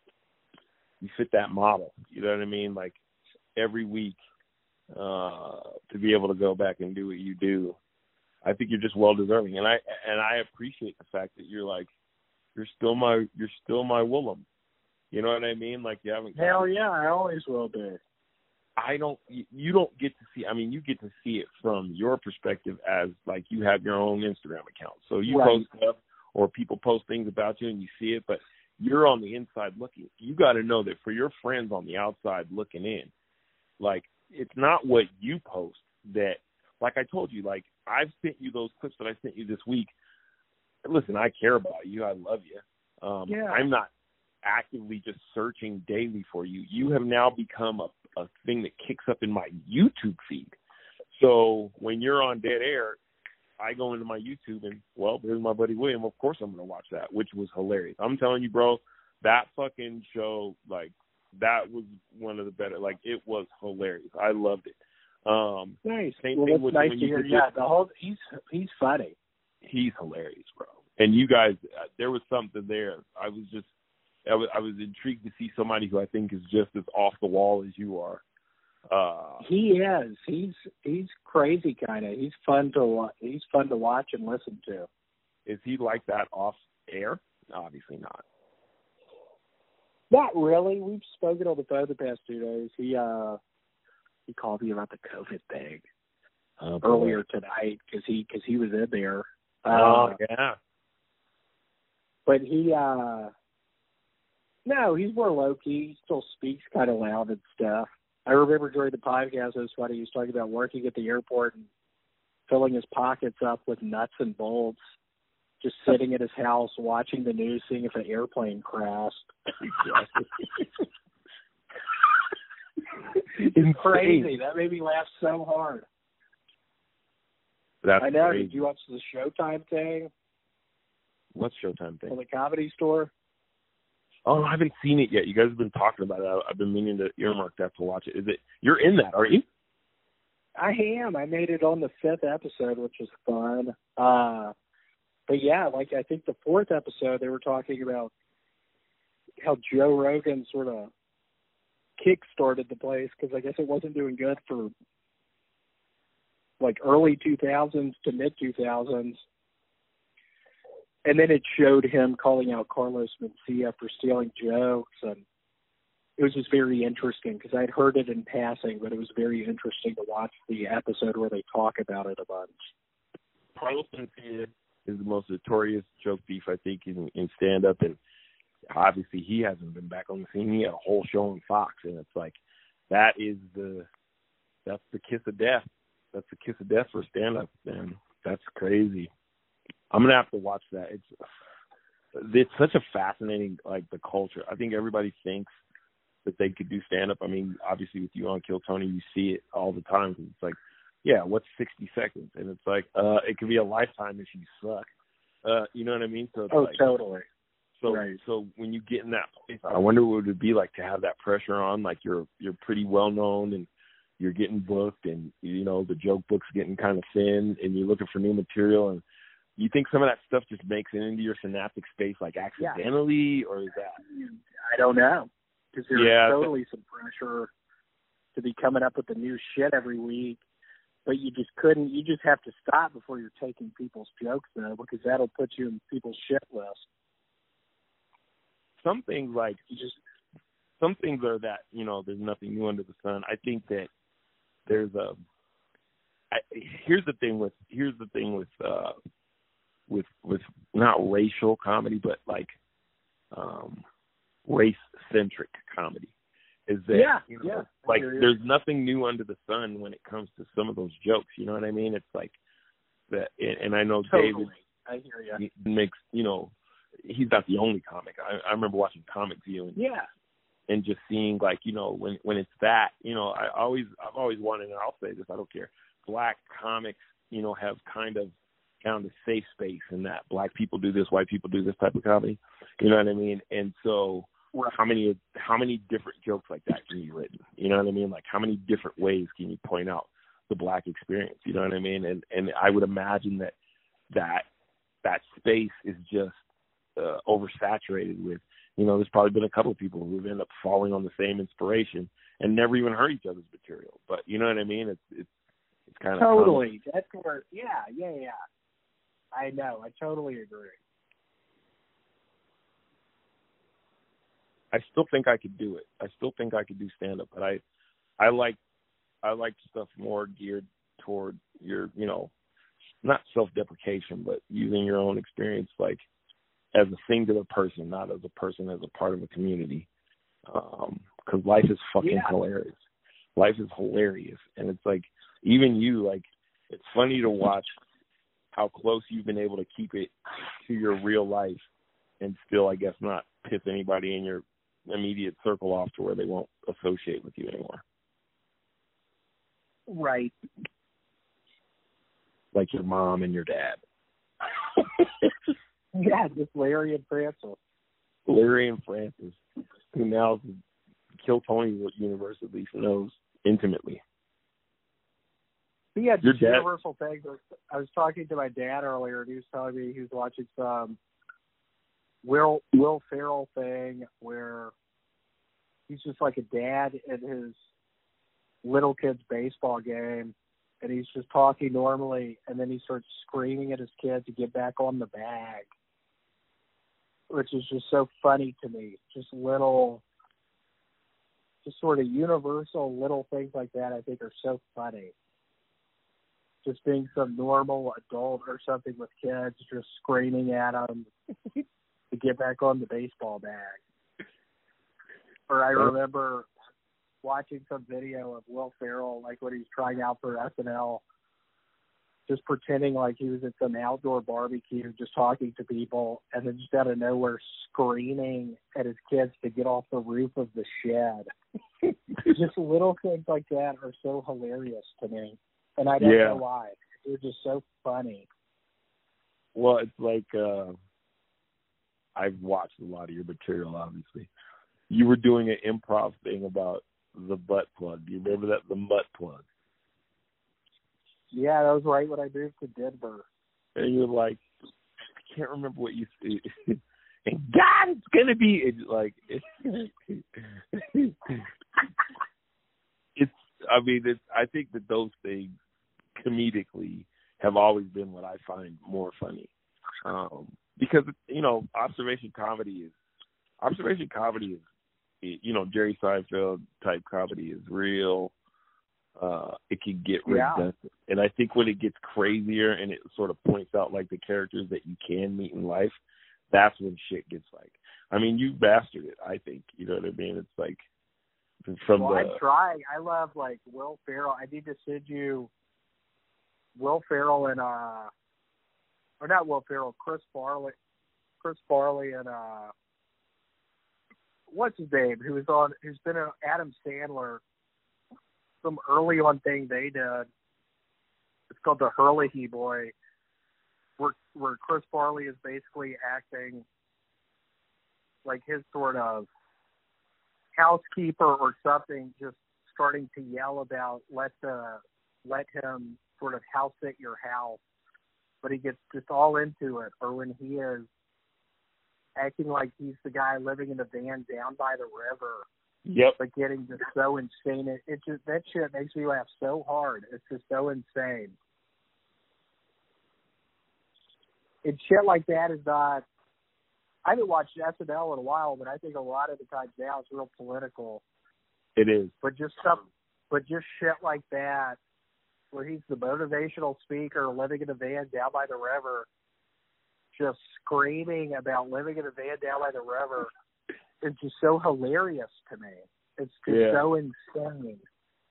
You fit that model. You know what I mean? Like every week, uh, to be able to go back and do what you do, I think you're just well deserving. And I and I appreciate the fact that you're like, you're still my you're still my Willem. You know what I mean? Like you haven't. Hell yeah, I always will be. I don't, you you don't get to see, I mean, you get to see it from your perspective as, like, you have your own Instagram account. So you Right. post stuff or people post things about you and you see it, but you're on the inside looking. You got to know that for your friends on the outside looking in, like, it's not what you post that, like I told you, like, I've sent you those clips that I sent you this week. Listen, I care about you. I love you. Um, Yeah. I'm not actively just searching daily for you. You have now become a, a thing that kicks up in my YouTube feed. So when you're on Dead Air, I go into my YouTube and, well, there's my buddy William. Of course I'm going to watch that, which was hilarious. I'm telling you, bro, that fucking show, like, that was one of the better. Like, it was hilarious. I loved it. Um, Nice. Same Well, thing that's with nice when to you hear. did Yeah, this- the whole he's he's funny. He's hilarious, bro. And you guys, uh, there was something there. I was just, I was, I was intrigued to see somebody who I think is just as off the wall as you are. Uh, He is. He's he's crazy kind of. He's fun to wa- he's fun to watch and listen to. is he like that off air? Obviously not. Not really. We've spoken on the phone the past two days. He uh he called me about the COVID thing Uh, earlier tonight because he because he was in there. Oh Uh, yeah. But he uh no, he's more low key. He still speaks kind of loud and stuff. I remember during the podcast, it was funny. He was talking about working at the airport and filling his pockets up with nuts and bolts, just sitting at his house watching the news, seeing if an airplane crashed. It's crazy. That made me laugh so hard. That's I know. crazy. Did you watch the Showtime thing What's Showtime thing? on the Comedy Store? Oh, I haven't seen it yet. You guys have been talking about it. I- I've been meaning to earmark that to watch it. Is it? You're in that, aren't you? I am. I made it on the fifth episode, which was fun. Uh, but yeah, like I think the fourth episode, they were talking about how Joe Rogan sort of kick-started the place because I guess it wasn't doing good for like early two thousands to mid two thousands. And then it showed him calling out Carlos Mencia for stealing jokes, and it was just very interesting because I'd heard it in passing, but it was very interesting to watch the episode where they talk about it a bunch. Carlos Mencia is the most notorious joke thief, I think, in, in stand-up, and obviously he hasn't been back on the scene. He had a whole show on Fox, and it's like, that is the, that's the kiss of death. That's the kiss of death for stand-up, man. That's crazy. I'm going to have to watch that. It's it's such a fascinating, like, the culture. I think everybody thinks that they could do stand-up. I mean, obviously with you on Kill Tony, you see it all the time. Cause it's like, yeah, what's sixty seconds? And it's like, uh, it could be a lifetime if you suck. Uh, you know what I mean? So it's Oh, like, totally. So, Right. so when you get in that place, I wonder what it would be like to have that pressure on. Like you're you're pretty well known and you're getting booked, and you know the joke book's getting kind of thin, and you're looking for new material. And you think some of that stuff just makes it into your synaptic space like accidentally, or is that? I don't know because there's Yeah, totally some pressure to be coming up with the new shit every week, but you just couldn't. You just have to stop before you're taking people's jokes though, because that'll put you in people's shit list. Some things like You just some things are that, you know, there's nothing new under the sun. I think that there's a I, here's the thing with here's the thing with uh with with not racial comedy, but like um race centric comedy is that Yeah, you know, yeah, I like hear you. there's nothing new under the sun when it comes to some of those jokes, you know what I mean? It's like that, and, and I know totally. David I hear you. he makes, you know, he's not the only comic. I, I remember watching Comic View and Yeah. and just seeing like, you know, when when it's that, you know, I always I've always wanted, and I'll say this, I don't care. Black comics, you know, have kind of found a safe space in that black people do this, white people do this type of comedy. You know what I mean? And so Right. how many how many different jokes like that can be written? You know what I mean? Like how many different ways can you point out the black experience? You know what I mean? And and I would imagine that that that space is just uh, oversaturated with, you know, there's probably been a couple of people who've ended up falling on the same inspiration and never even heard each other's material. But you know what I mean? It's it's it's kind of Totally. That's where. Yeah, yeah, yeah. I know. I totally agree. I still think I could do it. I still think I could do stand up, but I I like I like stuff more geared toward your, you know, not self-deprecation, but using your own experience, like, as a singular person, not as a person, as a part of a community. Um, 'cause life is fucking Yeah. hilarious. Life is hilarious. And it's like, even you, like, it's funny to watch how close you've been able to keep it to your real life and still, I guess, not piss anybody in your immediate circle off to where they won't associate with you anymore. Right. Like your mom and your dad. Yeah, just Larry and Francis. Larry and Francis, who now Kill Tony universe at least knows intimately. But yeah, Your just dad- universal things. I was talking to my dad earlier, and he was telling me he was watching some Will Will Ferrell thing where he's just like a dad at his little kid's baseball game, and he's just talking normally, and then he starts screaming at his kid to get back on the bag, which is just so funny to me. Just little, just sort of universal little things like that I think are so funny. Just being some normal adult or something with kids just screaming at them to get back on the baseball bag. Or I remember watching some video of Will Ferrell, like when he's trying out for S N L, just pretending like he was at some outdoor barbecue, just talking to people, and then just out of nowhere screaming at his kids to get off the roof of the shed. Just little things like that are so hilarious to me. And I don't Yeah. know why. They're just so funny. Well, it's like, uh, I've watched a lot of your material, obviously. You were doing an improv thing about the butt plug. Do you remember that? The butt plug. Yeah, that was right when I moved to Denver. And you're like, I can't remember what you said. And God, it's going to be, it's like, it's, it's, I mean, it's, I think that those things comedically have always been what I find more funny. Um, because, you know, observation comedy is, observation comedy is, you know, Jerry Seinfeld type comedy is real. Uh, it can get Yeah. redundant. And I think when it gets crazier and it sort of points out like the characters that you can meet in life, that's when shit gets like, I mean, you mastered it, I think. You know what I mean? It's like from well, the. I'm trying. I love like Will Ferrell. I need to send you Will Ferrell and uh, or not Will Ferrell, Chris Farley, Chris Farley and uh, what's his name? Who was on? Who's been a Adam Sandler. Some early on thing they did. It's called the Hurley Boy, where where Chris Farley is basically acting like his sort of housekeeper or something, just starting to yell about let the let him sort of house sit your house, but he gets just all into it. Or when he is acting like he's the guy living in the van down by the river. Yep. But getting just so insane. It, it just that shit makes me laugh so hard. It's just so insane. And shit like that is not. I haven't watched S N L in a while, but I think a lot of the times now it's real political. It is. But just some, but just shit like that, where he's the motivational speaker living in a van down by the river, just screaming about living in a van down by the river. It's just so hilarious to me. It's just Yeah. so insane.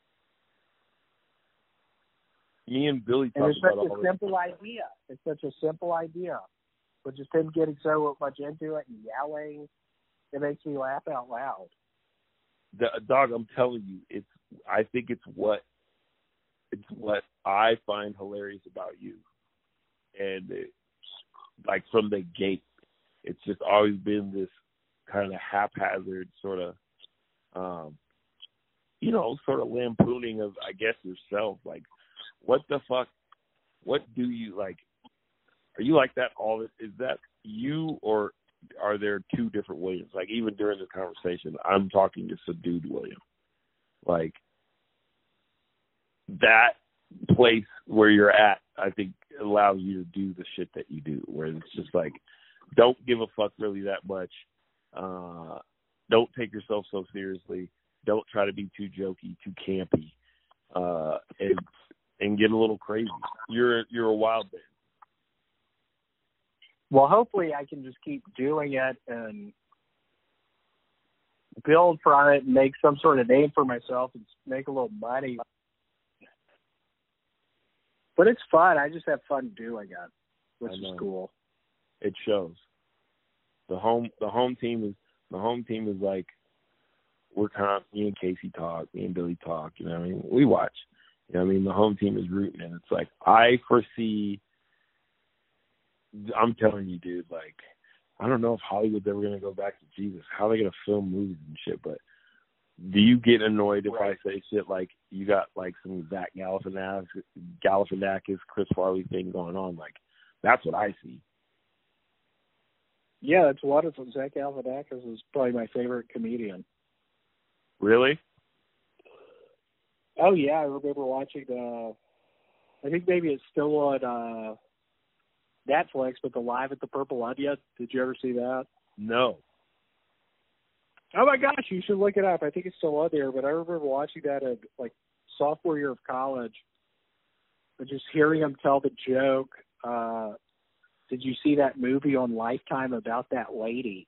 Me and Billy And talk it's such about all a this. simple idea. It's such a simple idea. But just him getting so much into it and yelling, it makes me laugh out loud. The, dog, I'm telling you, it's. I think it's what it's what I find hilarious about you, and it, like from the gate, it's just always been this kind of haphazard sort of, um, you know, sort of lampooning of, I guess, yourself. Like, what the fuck? What do you like? Are you like that all? Is that you, or are there two different Williams? Like, even during this conversation, I'm talking to subdued William. Like, that place where you're at, I think, allows you to do the shit that you do, where it's just like, don't give a fuck really that much. Uh, don't take yourself so seriously. Don't try to be too jokey, too campy. uh, and and get a little crazy. You're you're a wild man. Well, hopefully I can just keep doing it and build from it and make some sort of name for myself and make a little money. But it's fun. I just have fun doing it, which is cool. It shows. The home the home team is the home team is like we're kind of, me and Casey talk, me and Billy talk, you know what I mean? We watch. You know what I mean? The home team is rooting, and it's like I foresee I'm telling you, dude, like I don't know if Hollywood's ever gonna go back to Jesus. How are they gonna film movies and shit, but do you get annoyed if right. I say shit like you got like some Zach Galifianakis, Galifianakis, Chris Farley thing going on? Like, that's what I see. Yeah, that's wonderful. Zach Galifianakis is probably my favorite comedian. Really? Oh, yeah, I remember watching the, I think maybe it's still on uh, Netflix, but the Live at the Purple Onion. Did you ever see that? No. Oh my gosh, you should look it up. I think it's still on there, but I remember watching that at like sophomore year of college and just hearing him tell the joke. Uh, did you see that movie on Lifetime about that lady?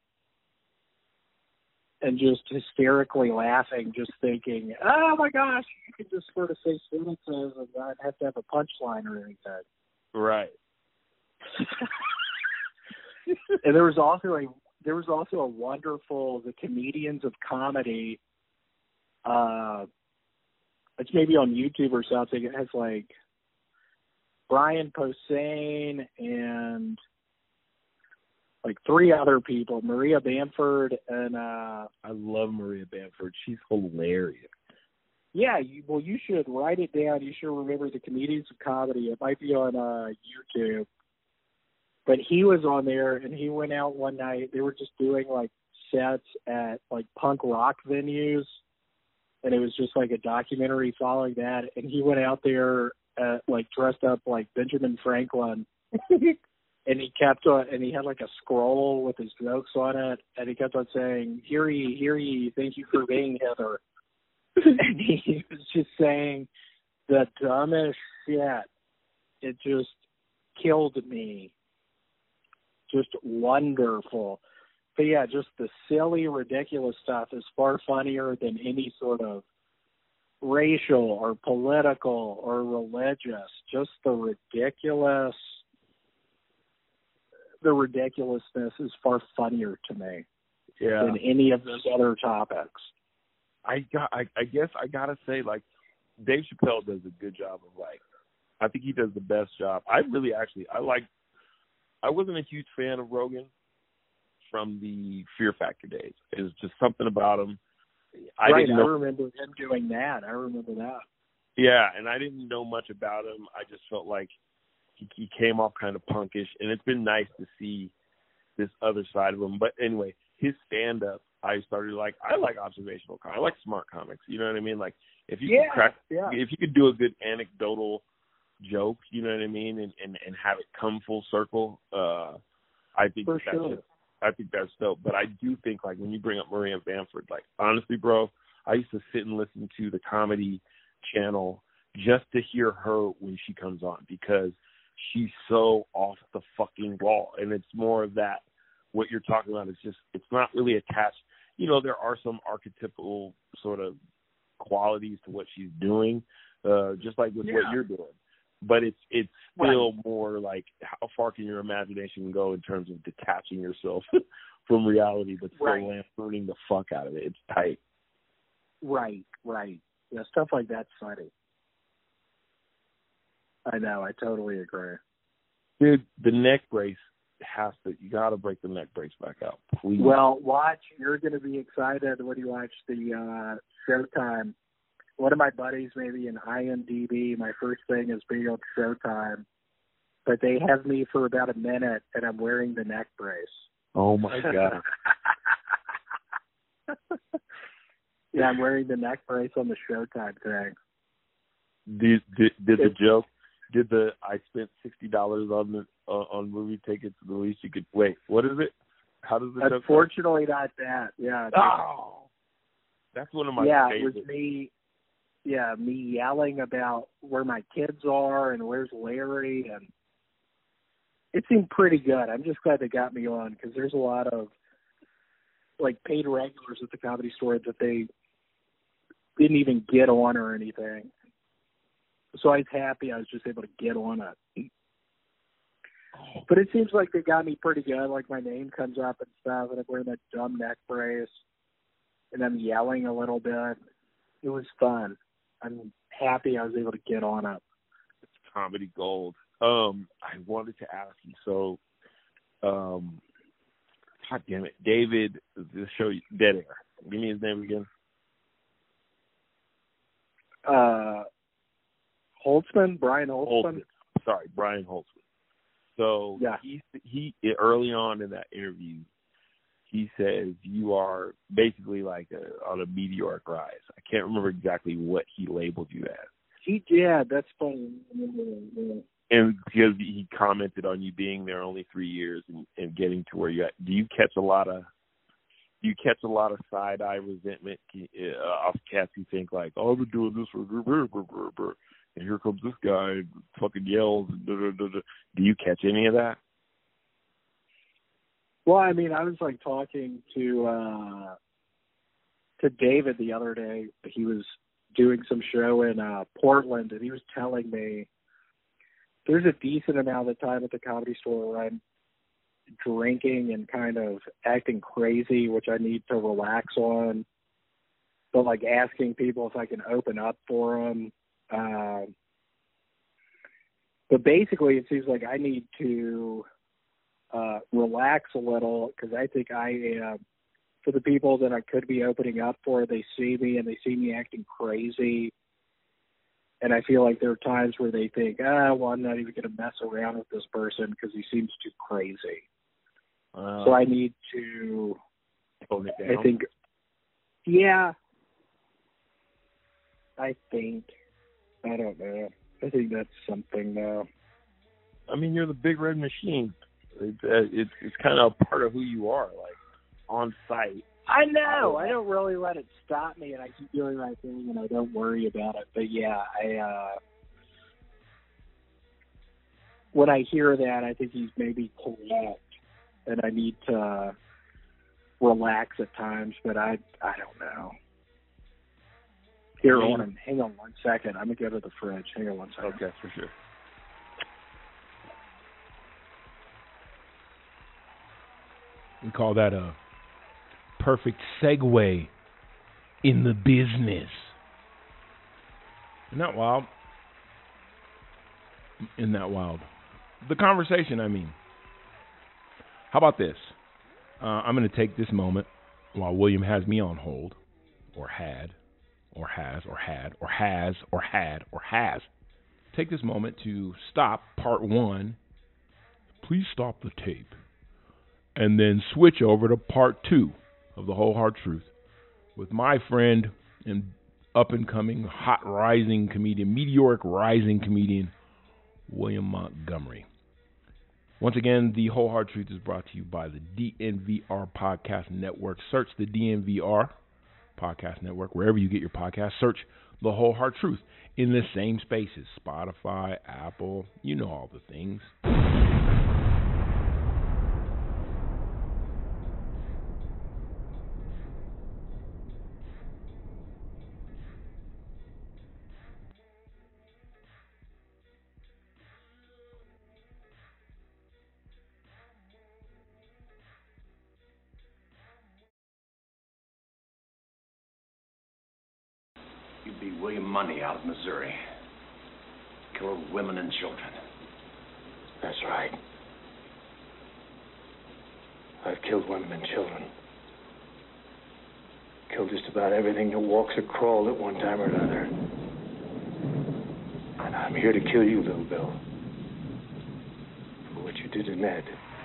And just hysterically laughing, just thinking, oh my gosh, you could just sort of say sentences and not have to have a punchline or anything. Right. And there was also a There was also a wonderful, the Comedians of Comedy, uh, it's maybe on YouTube or something. It has like Brian Posehn and like three other people, Maria Bamford and... Uh, I love Maria Bamford. She's hilarious. Yeah, you, well, you should write it down. You should remember the Comedians of Comedy. It might be on uh, YouTube. But he was on there, and he went out one night. They were just doing, like, sets at, like, punk rock venues, and it was just, like, a documentary following that. And he went out there, uh, like, dressed up like Benjamin Franklin, and he kept on, and he had, like, a scroll with his jokes on it, and he kept on saying, hear ye, hear ye, thank you for being Heather. And he was just saying the dumbest shit. It just killed me. Just wonderful. But yeah, just the silly, ridiculous stuff is far funnier than any sort of racial or political or religious. Just the ridiculous, the ridiculousness is far funnier to me yeah. than any of those other topics. I got. I, I guess I gotta say, like, Dave Chappelle does a good job of, like, I think he does the best job. I really actually, I like. I wasn't a huge fan of Rogan from the Fear Factor days. It was just something about him. I right, didn't know, I remember him doing that. I remember that. Yeah, and I didn't know much about him. I just felt like he, he came off kind of punkish, and it's been nice to see this other side of him. But anyway, his stand-up, I started like, I like observational comics. I like smart comics. You know what I mean? Like, if you yeah, could crack, yeah. if you could do a good anecdotal joke, you know what I mean, and, and, and have it come full circle, uh, I think For that's sure. just, I think that's dope. But I do think, like, when you bring up Maria Bamford, like, honestly, bro, I used to sit and listen to the Comedy Channel just to hear her when she comes on, because she's so off the fucking wall. And it's more of that, what you're talking about is just, it's not really attached. You know, there are some archetypal sort of qualities to what she's doing, uh, just like with yeah. what you're doing. But it's it's still right. more like, how far can your imagination go in terms of detaching yourself from reality, but still right. lampooning the fuck out of it? It's tight. Right, right. Yeah, stuff like that's funny. I know, I totally agree. Dude, the neck brace has to, you got to break the neck brace back out, please. Well, watch, you're going to be excited when you watch the uh, Showtime. One of my buddies, maybe in I M D B, my first thing is being on Showtime, but they have me for about a minute, and I'm wearing the neck brace. Oh, my God. Yeah, I'm wearing the neck brace on the Showtime thing. Did, did, did the joke, did the, I spent sixty dollars on the uh, on movie tickets, the least you could, wait, what is it? How does the joke Unfortunately, not that. Yeah. Oh! That's one of my yeah, favorites. it was me. yeah, me yelling about where my kids are and where's Larry, and it seemed pretty good. I'm just glad they got me on because there's a lot of like paid regulars at the Comedy Store that they didn't even get on or anything. So I was happy I was just able to get on it. But it seems like they got me pretty good. Like my name comes up and stuff, and I'm wearing that dumb neck brace, and I'm yelling a little bit. It was fun. I'm happy I was able to get on it. It's comedy gold. Um, I wanted to ask you, so, um, God damn it, David, the show, Dead Air. Give me his name again. Uh, Holtzman, Brian Holtzman. Holtzman. Sorry, Brian Holtzman. So yeah. he he early on in that interview, he says you are basically like a, on a meteoric rise. I can't remember exactly what he labeled you as. He yeah, that's funny. And because he commented on you being there only three years and, and getting to where you at. Do you catch a lot of do you catch a lot of side eye resentment uh, off cats who think like, oh, I've been doing this for brr, brr, brr, brr, and here comes this guy and fucking yells. And da, da, da, da. Do you catch any of that? Well, I mean, I was like talking to uh, to David the other day. He was doing some show in uh, Portland, and he was telling me there's a decent amount of time at the Comedy Store where I'm drinking and kind of acting crazy, which I need to relax on. But like asking people if I can open up for them. Uh, but basically, it seems like I need to uh, relax a little because I think I am, for the people that I could be opening up for, they see me and they see me acting crazy. And I feel like there are times where they think, ah, well, I'm not even going to mess around with this person because he seems too crazy. Uh, so I need to, tone it down. I think, yeah, I think, I don't know. I think that's something now. I mean, you're the Big Red Machine. It, uh, it's it's kind of a part of who you are, like on site. I know. I don't really let it stop me, and I keep doing my thing, and I don't worry about it. But yeah, I uh, when I hear that, I think he's maybe correct, and I need to relax at times. But I I don't know. Here, hold on. Hang on one second. I'm going to go to the fridge. Hang on one second. Okay, for sure. We call that a perfect segue in the business. Isn't that wild? Isn't that wild? The conversation, I mean. How about this? Uh, I'm going to take this moment while William has me on hold, or had, or has, or had, or has, or had, or has. Take this moment to stop part one. Please stop the tape. And then switch over to part two of The Whole Hard Truth with my friend and up-and-coming, hot rising comedian, meteoric rising comedian, William Montgomery. Once again, The Whole Hard Truth is brought to you by the D N V R Podcast Network. Search the D N V R Podcast Network wherever you get your podcasts. Search The Whole Hard Truth in the same spaces. Spotify, Apple, you know all the things. You beat William Mundy out of Missouri. Killed women and children. That's right. I've killed women and children. Killed just about everything that walks or crawls at one time or another. And I'm here to kill you, Little Bill. For what you did to Ned.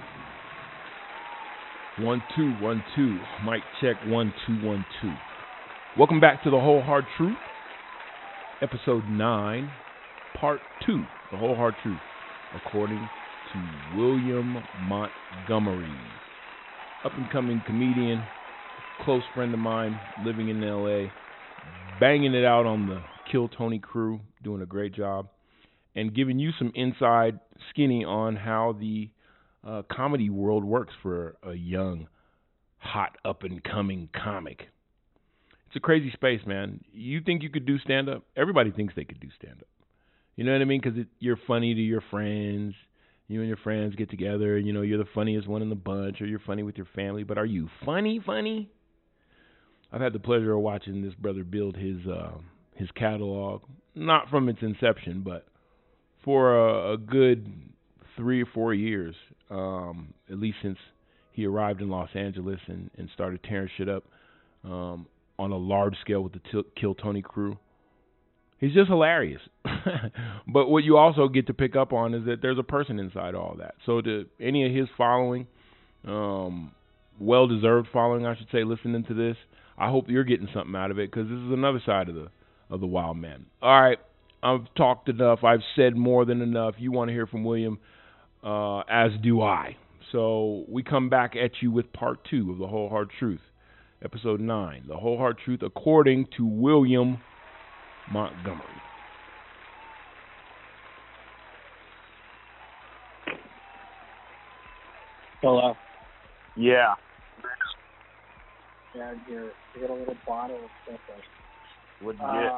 One, two, one, two. Mic check, one, two, one, two. Welcome back to The Whole Hard Truth, episode nine, part two, The Whole Hard Truth, according to William Montgomery. Up-and-coming comedian, close friend of mine, living in L A, banging it out on the Kill Tony crew, doing a great job, and giving you some inside skinny on how the uh, comedy world works for a young, hot, up-and-coming comic. It's a crazy space, man. You think you could do stand-up? Everybody thinks they could do stand-up. You know what I mean? Because you're funny to your friends. You and your friends get together, and you know you're the funniest one in the bunch, or you're funny with your family. But are you funny, funny? I've had the pleasure of watching this brother build his uh, his catalog, not from its inception, but for a, a good three or four years, um, at least since he arrived in Los Angeles and, and started tearing shit up um, on a large scale with the T- Kill Tony crew. He's just hilarious. But what you also get to pick up on is that there's a person inside all that. So to any of his following, um, well-deserved following, I should say, listening to this, I hope you're getting something out of it, because this is another side of the of the wild man. All right, I've talked enough. I've said more than enough. You want to hear from William, uh, as do I. So we come back at you with part two of The Whole Hard Truth, episode nine, The Whole Hard Truth according to William Montgomery. Hello. Yeah. Down here, I got a little bottle of stuff. What'd you Uh, get?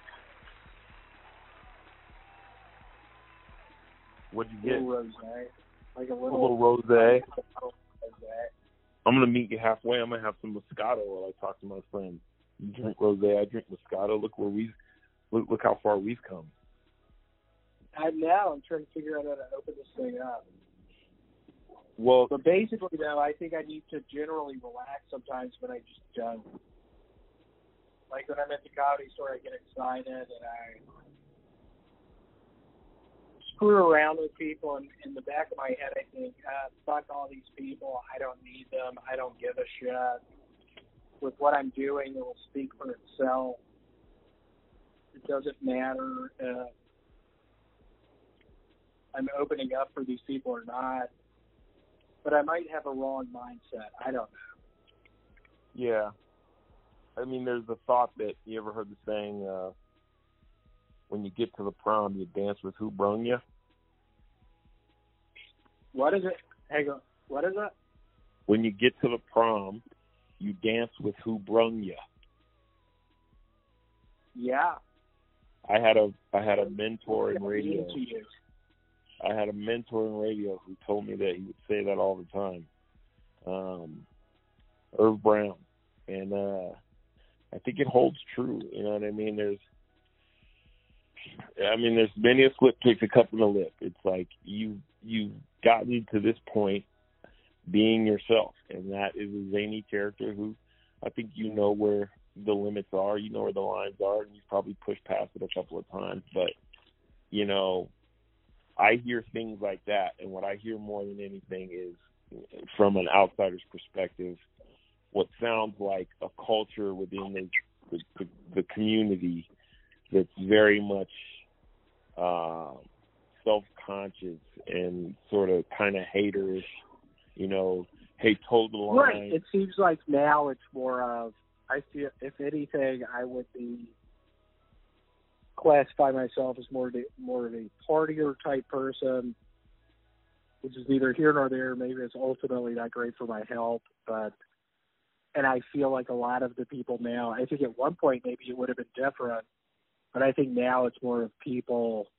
What'd you a get? little rosé, like a A little, little rosé. rosé. I'm gonna meet you halfway. I'm gonna have some Moscato while I talk to my friends. You drink rosé, I drink Moscato. Look where we've look, look how far we've come. I know. I'm trying to figure out how to open this thing up. Well, But basically, though, I think I need to generally relax sometimes when I just don't. Like when I'm at the comedy store, I get excited and I screw around with people, and in the back of my head, I think, ah, fuck all these people. I don't need them. I don't give a shit. With what I'm doing, it will speak for itself. It doesn't matter if I'm opening up for these people or not. But I might have a wrong mindset. I don't know. yeah. I mean, there's the thought that, you ever heard the saying, uh, when you get to the prom, you dance with who brung you? What is it? Hang on. What is it? When you get to the prom, you dance with who brung you. Yeah. I had a I had a mentor in radio. Into you. I had a mentor in radio who told me that he would say that all the time. Um, Irv Brown. And uh, I think it holds true. You know what I mean? There's, I mean, there's many a slip takes a cup in the lip. It's like you you've gotten to this point being yourself, and that is a zany character who I think you know where the limits are, you know where the lines are, and you've probably pushed past it a couple of times. But you know, I hear things like that, and what I hear more than anything is, from an outsider's perspective, what sounds like a culture within the the, the, the community that's very much uh, self-conscious and sort of kind of haterish, you know, hey, toe the line. Right. It seems like now it's more of, I feel, if anything, I would be classify myself as more of a, more of a partier type person, which is neither here nor there. Maybe it's ultimately not great for my health, but, and I feel like a lot of the people now, I think at one point maybe it would have been different, but I think now it's more of people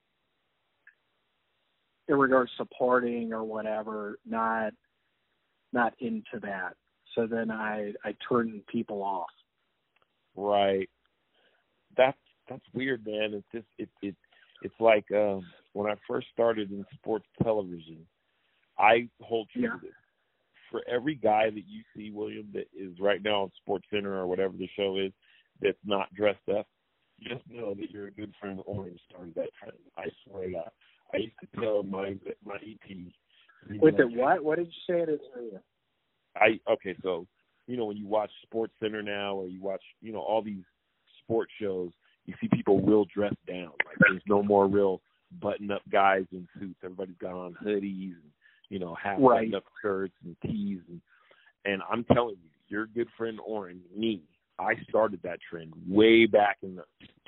in regards to partying or whatever, not not into that. So then I I turn people off. Right. That's that's weird, man. It's just it it it's like um, when I first started in sports television, I hold true Yeah. to this. For every guy that you see, William, that is right now on SportsCenter or whatever the show is, that's not dressed up, just know that you're a good friend of Orange started that trend. I swear to God. I used to tell my my E P. With it what? What did you say it is? I okay, so you know when you watch SportsCenter now, or you watch you know all these sports shows, you see people real dressed down. Like there's no more real button-up guys in suits. Everybody's got on hoodies and you know half Right. button-up shirts and tees, and and I'm telling you, your good friend Oren, me, I started that trend way back in the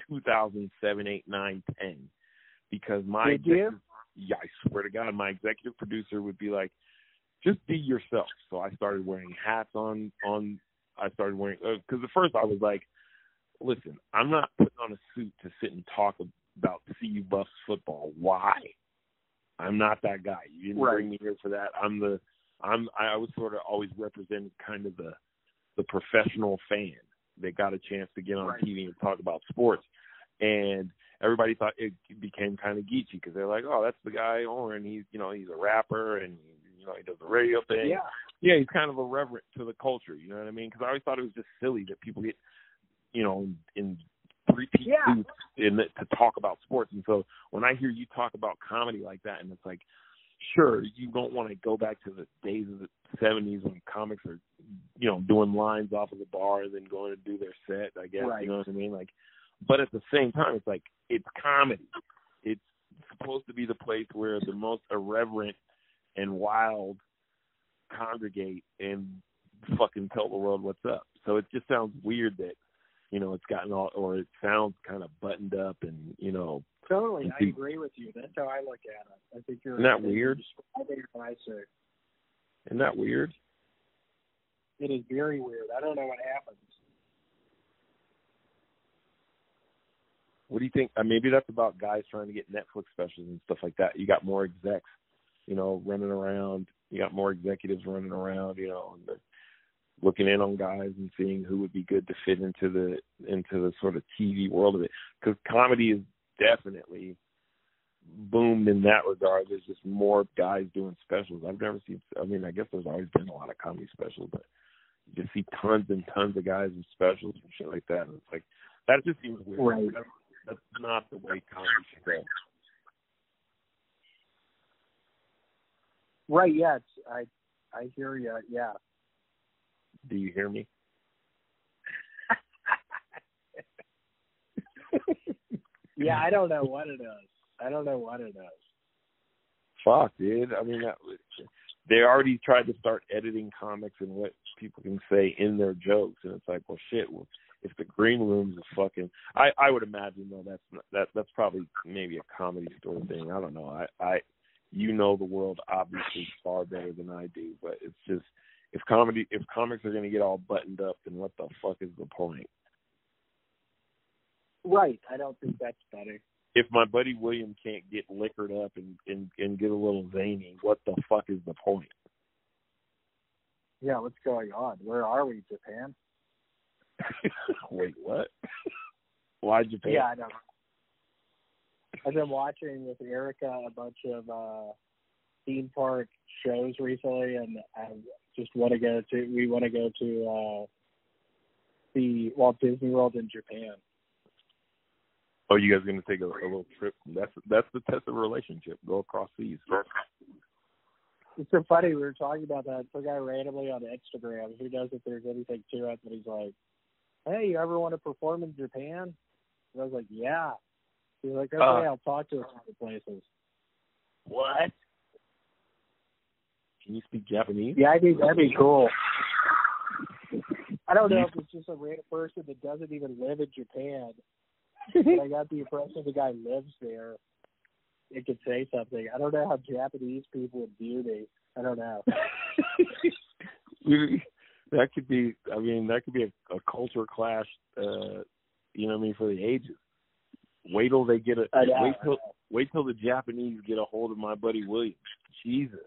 two thousand seven, eight, nine, ten, because my Did you? yeah, I swear to God, my executive producer would be like, just be yourself. So I started wearing hats on, on, I started wearing, because uh, at first I was like, listen, I'm not putting on a suit to sit and talk about C U Buffs football. Why? I'm not that guy. You didn't Right. bring me here for that. I'm the, I'm, I was sort of always represented kind of the, the professional fan that got a chance to get on Right. T V and talk about sports. And everybody thought it became kind of geeky because they're like, oh, that's the guy, Oren. He's, you know, he's a rapper and, you know, he does the radio thing. Yeah. Yeah, he's kind of irreverent to the culture. You know what I mean? Because I always thought it was just silly that people get, you know, in three-piece Yeah. suits in the, to talk about sports. And so when I hear you talk about comedy like that, and it's like, sure, you don't want to go back to the days of the seventies when comics are, you know, doing lines off of the bar and then going to do their set, I guess. Right. You know what I mean? Like, but at the same time, it's like, it's comedy. It's supposed to be the place where the most irreverent and wild congregate and fucking tell the world what's up. So it just sounds weird that, you know, it's gotten all, or it sounds kind of buttoned up and, you know. Totally, I the, agree with you. That's how I look at it. I think you're. Isn't that weird? I think it's nicer. Isn't that weird? It is very weird. I don't know what happens. What do you think? Uh, maybe that's about guys trying to get Netflix specials and stuff like that. You got more execs, you know, running around. You got more executives running around, you know, and they're looking in on guys and seeing who would be good to fit into the into the sort of T V world of it. Because comedy is definitely boomed in that regard. There's just more guys doing specials. I've never seen. I mean, I guess there's always been a lot of comedy specials, but you just see tons and tons of guys with specials and shit like that. And it's like that just seems weird. Right. That's, that's not the way comedy should go. Right. Yeah. It's, I I hear you. Yeah. Do you hear me? Yeah. I don't know what it is. I don't know what it is. Fuck, dude. I mean, that, they already tried to start editing comics and what people can say in their jokes, and it's like, well, shit. Well, if the green room's a fucking, I, I would imagine though that's not, that that's probably maybe a comedy store thing. I don't know. I, I, you know the world obviously far better than I do, but it's just if comedy, if comics are gonna get all buttoned up, then what the fuck is the point? Right. I don't think that's better. If my buddy William can't get liquored up and, and, and get a little zany, what the fuck is the point? Yeah. What's going on? Where are we, Japan? Wait, what? Why Japan? Yeah, I know. I've been watching with Erica a bunch of uh, theme park shows recently, and I just want to go to. We want to go to uh, the Walt Disney World in Japan. Oh, you guys are gonna take a, a little trip? That's that's the test of a relationship. Go across seas. It's so funny. We were talking about that. Some guy randomly on Instagram. Who knows if there's anything to it? But he's like, "Hey, you ever want to perform in Japan?" And I was like, "Yeah." He's like, "Okay, Uh, I'll talk to a couple places." What? Can you speak Japanese? Yeah, I think that'd be cool. I don't know if it's just a random person that doesn't even live in Japan. But I got the impression the guy lives there. It could say something. I don't know how Japanese people would view me. I don't know. That could be. I mean, that could be a, a culture clash. Uh, you know what I mean, for the ages. Wait till they get a. I know, wait till I know. wait till the Japanese get a hold of my buddy William. Jesus.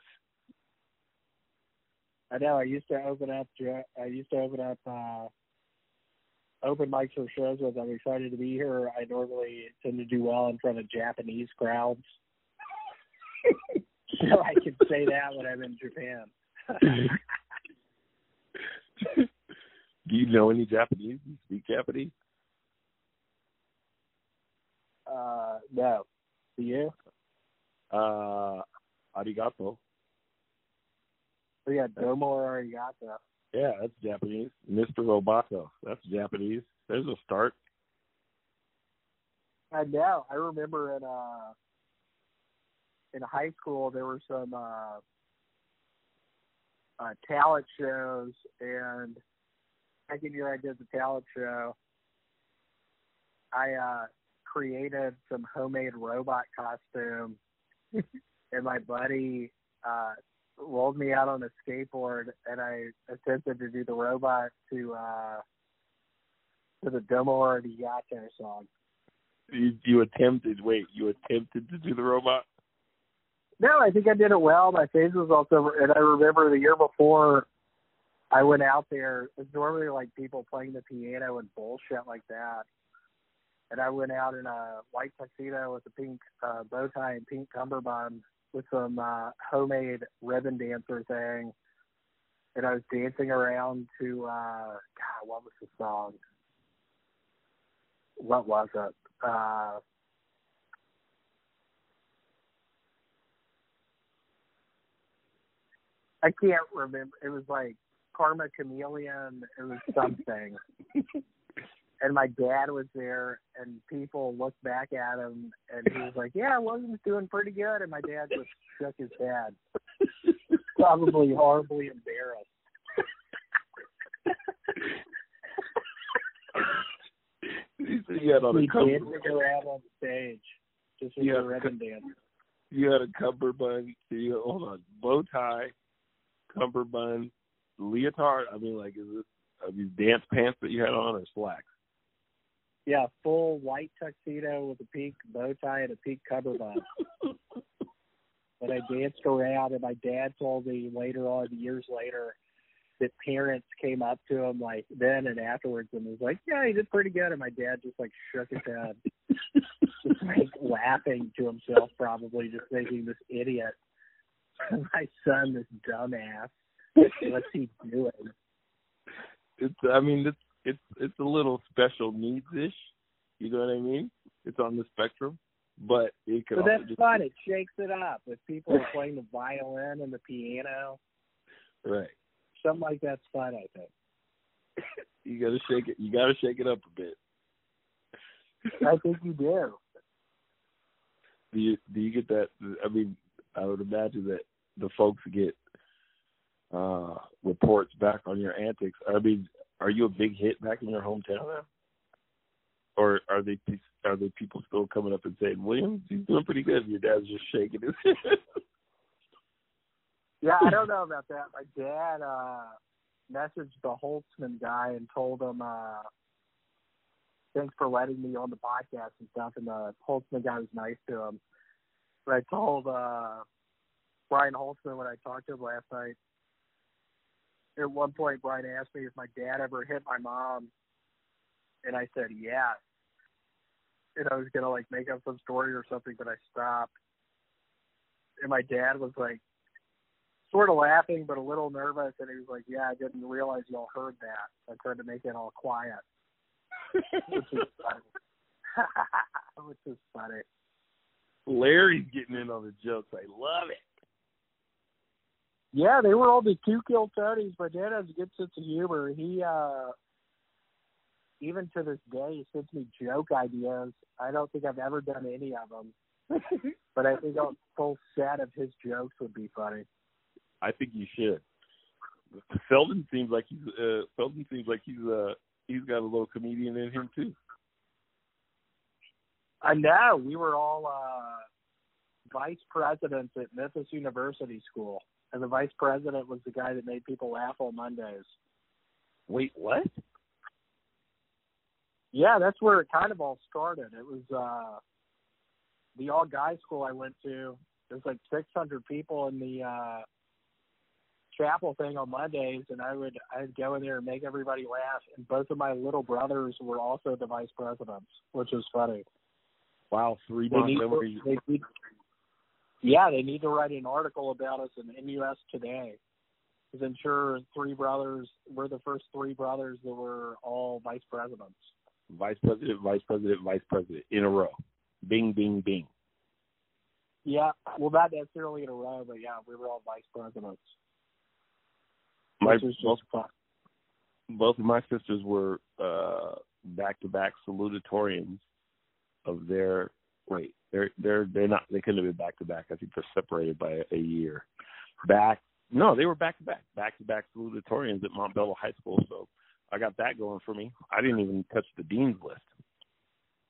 I know. I used to open up. I used to open up uh, open mics for shows with. I'm excited to be here. I normally tend to do well in front of Japanese crowds, so I can say that when I'm in Japan. Do you know any Japanese? Do you speak Japanese? uh, no, do you? Uh, arigato. We got domo arigato. Yeah, that's Japanese. Mister Roboto. That's Japanese. There's a start. I know. I remember in uh in high school there were some uh, uh talent shows, and second year I did the talent show, I uh, created some homemade robot costume, and my buddy uh, rolled me out on a skateboard, and I attempted to do the robot to uh, to the Domo Ardiato song. You, you attempted, wait, you attempted to do the robot? No, I think I did it well. My face was also, and I remember the year before I went out there, it's normally like people playing the piano and bullshit like that. And I went out in a white tuxedo with a pink uh, bow tie and pink cummerbund with some uh, homemade ribbon dancer thing. And I was dancing around to, uh, God, what was the song? What was it? Uh, I can't remember. It was like Karma Chameleon. It was something. And my dad was there, and people looked back at him, and he was like, yeah, William's doing pretty good. And my dad just shook his head, probably horribly embarrassed. You had on a he cover. dancing around on the stage, just with a ribbon dancer. You had a cummerbund, you, hold on, bow tie, cummerbund, leotard. I mean, like, is this are these dance pants that you had on or slacks? Yeah, full white tuxedo with a pink bow tie and a pink cummerbund. And I danced around, and my dad told me later on, years later, that parents came up to him like then and afterwards and was like, yeah, he did pretty good. And my dad just like shook his head, just like laughing to himself, probably just thinking, this idiot, my son, this dumbass, what's he doing? It's, I mean, it's it's it's a little special needs ish. You know what I mean? It's on the spectrum, but it could. But also that's just fun. It shakes it up. If people are playing the violin and the piano, right? Something like that's fun, I think. You gotta shake it. You gotta shake it up a bit. I think you do. Do you do you get that? I mean, I would imagine that the folks get uh, reports back on your antics. I mean, are you a big hit back in your hometown now? Or are they are they people still coming up and saying, Williams, he's doing pretty good? Your dad's just shaking his head. Yeah, I don't know about that. My dad uh, messaged the Holtzman guy and told him, uh, thanks for letting me on the podcast and stuff. And the Holtzman guy was nice to him. But I told uh, Brian Holtzman when I talked to him last night, at one point, Brian asked me if my dad ever hit my mom. And I said, yes. And I was going to, like, make up some story or something, but I stopped. And my dad was, like, sort of laughing, but a little nervous. And he was like, yeah, I didn't realize y'all heard that. I tried to make it all quiet. Which is funny. Which is funny. Larry's getting in on the jokes. I love it. Yeah, they were all the two kill Tonys. My dad has a good sense of humor. He, uh, even to this day, he sends me joke ideas. I don't think I've ever done any of them. But I think a full set of his jokes would be funny. I think you should. Selden seems like he's uh, Selden seems like he's uh he's got a little comedian in him too. I know. We were all uh, vice presidents at Memphis University School, and the vice president was the guy that made people laugh on Mondays. Wait, what? Yeah, that's where it kind of all started. It was uh, the all-guys school I went to. There's like six hundred people in the uh, chapel thing on Mondays, and I would I'd go in there and make everybody laugh. And both of my little brothers were also the vice presidents, which was funny. Wow, three They need, Montgomery. they need, yeah, they need to write an article about us in M U S Today. Because I'm sure three brothers, we're the first three brothers that were all vice presidents. Vice president, vice president, vice president in a row. Bing, bing, bing. Yeah, well, not necessarily in a row, but yeah, we were all vice presidents. My, Which was both, just fun. both of my sisters were uh, back-to-back salutatorians of their. Wait, they're they're they're not. They couldn't have been back-to-back. I think they're separated by a, a year. Back. No, they were back-to-back, back-to-back salutatorians at Montbello High School. So I got that going for me. I didn't even touch the dean's list.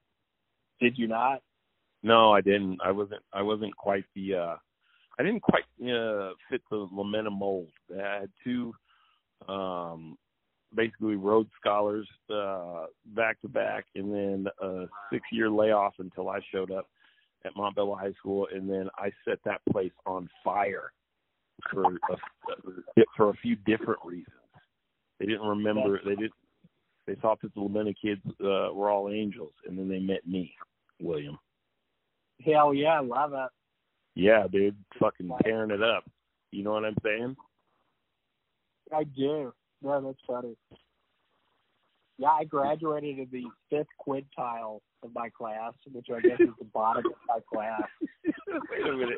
Did you not? No, I didn't. I wasn't. I wasn't quite the. Uh, I didn't quite uh, fit the Lamena mold. I had two, um, basically Rhodes Scholars uh, back to back, and then a six-year layoff until I showed up at Montbello High School, and then I set that place on fire for a, for a few different reasons. They didn't remember. They did. They thought that the Lamena kids uh, were all angels, and then they met me, William. Hell yeah, I love it. Yeah, dude, fucking tearing it up. You know what I'm saying? I do. No, that's funny. Yeah, I graduated in the fifth quintile of my class, which I guess is the bottom of my class. Wait a minute.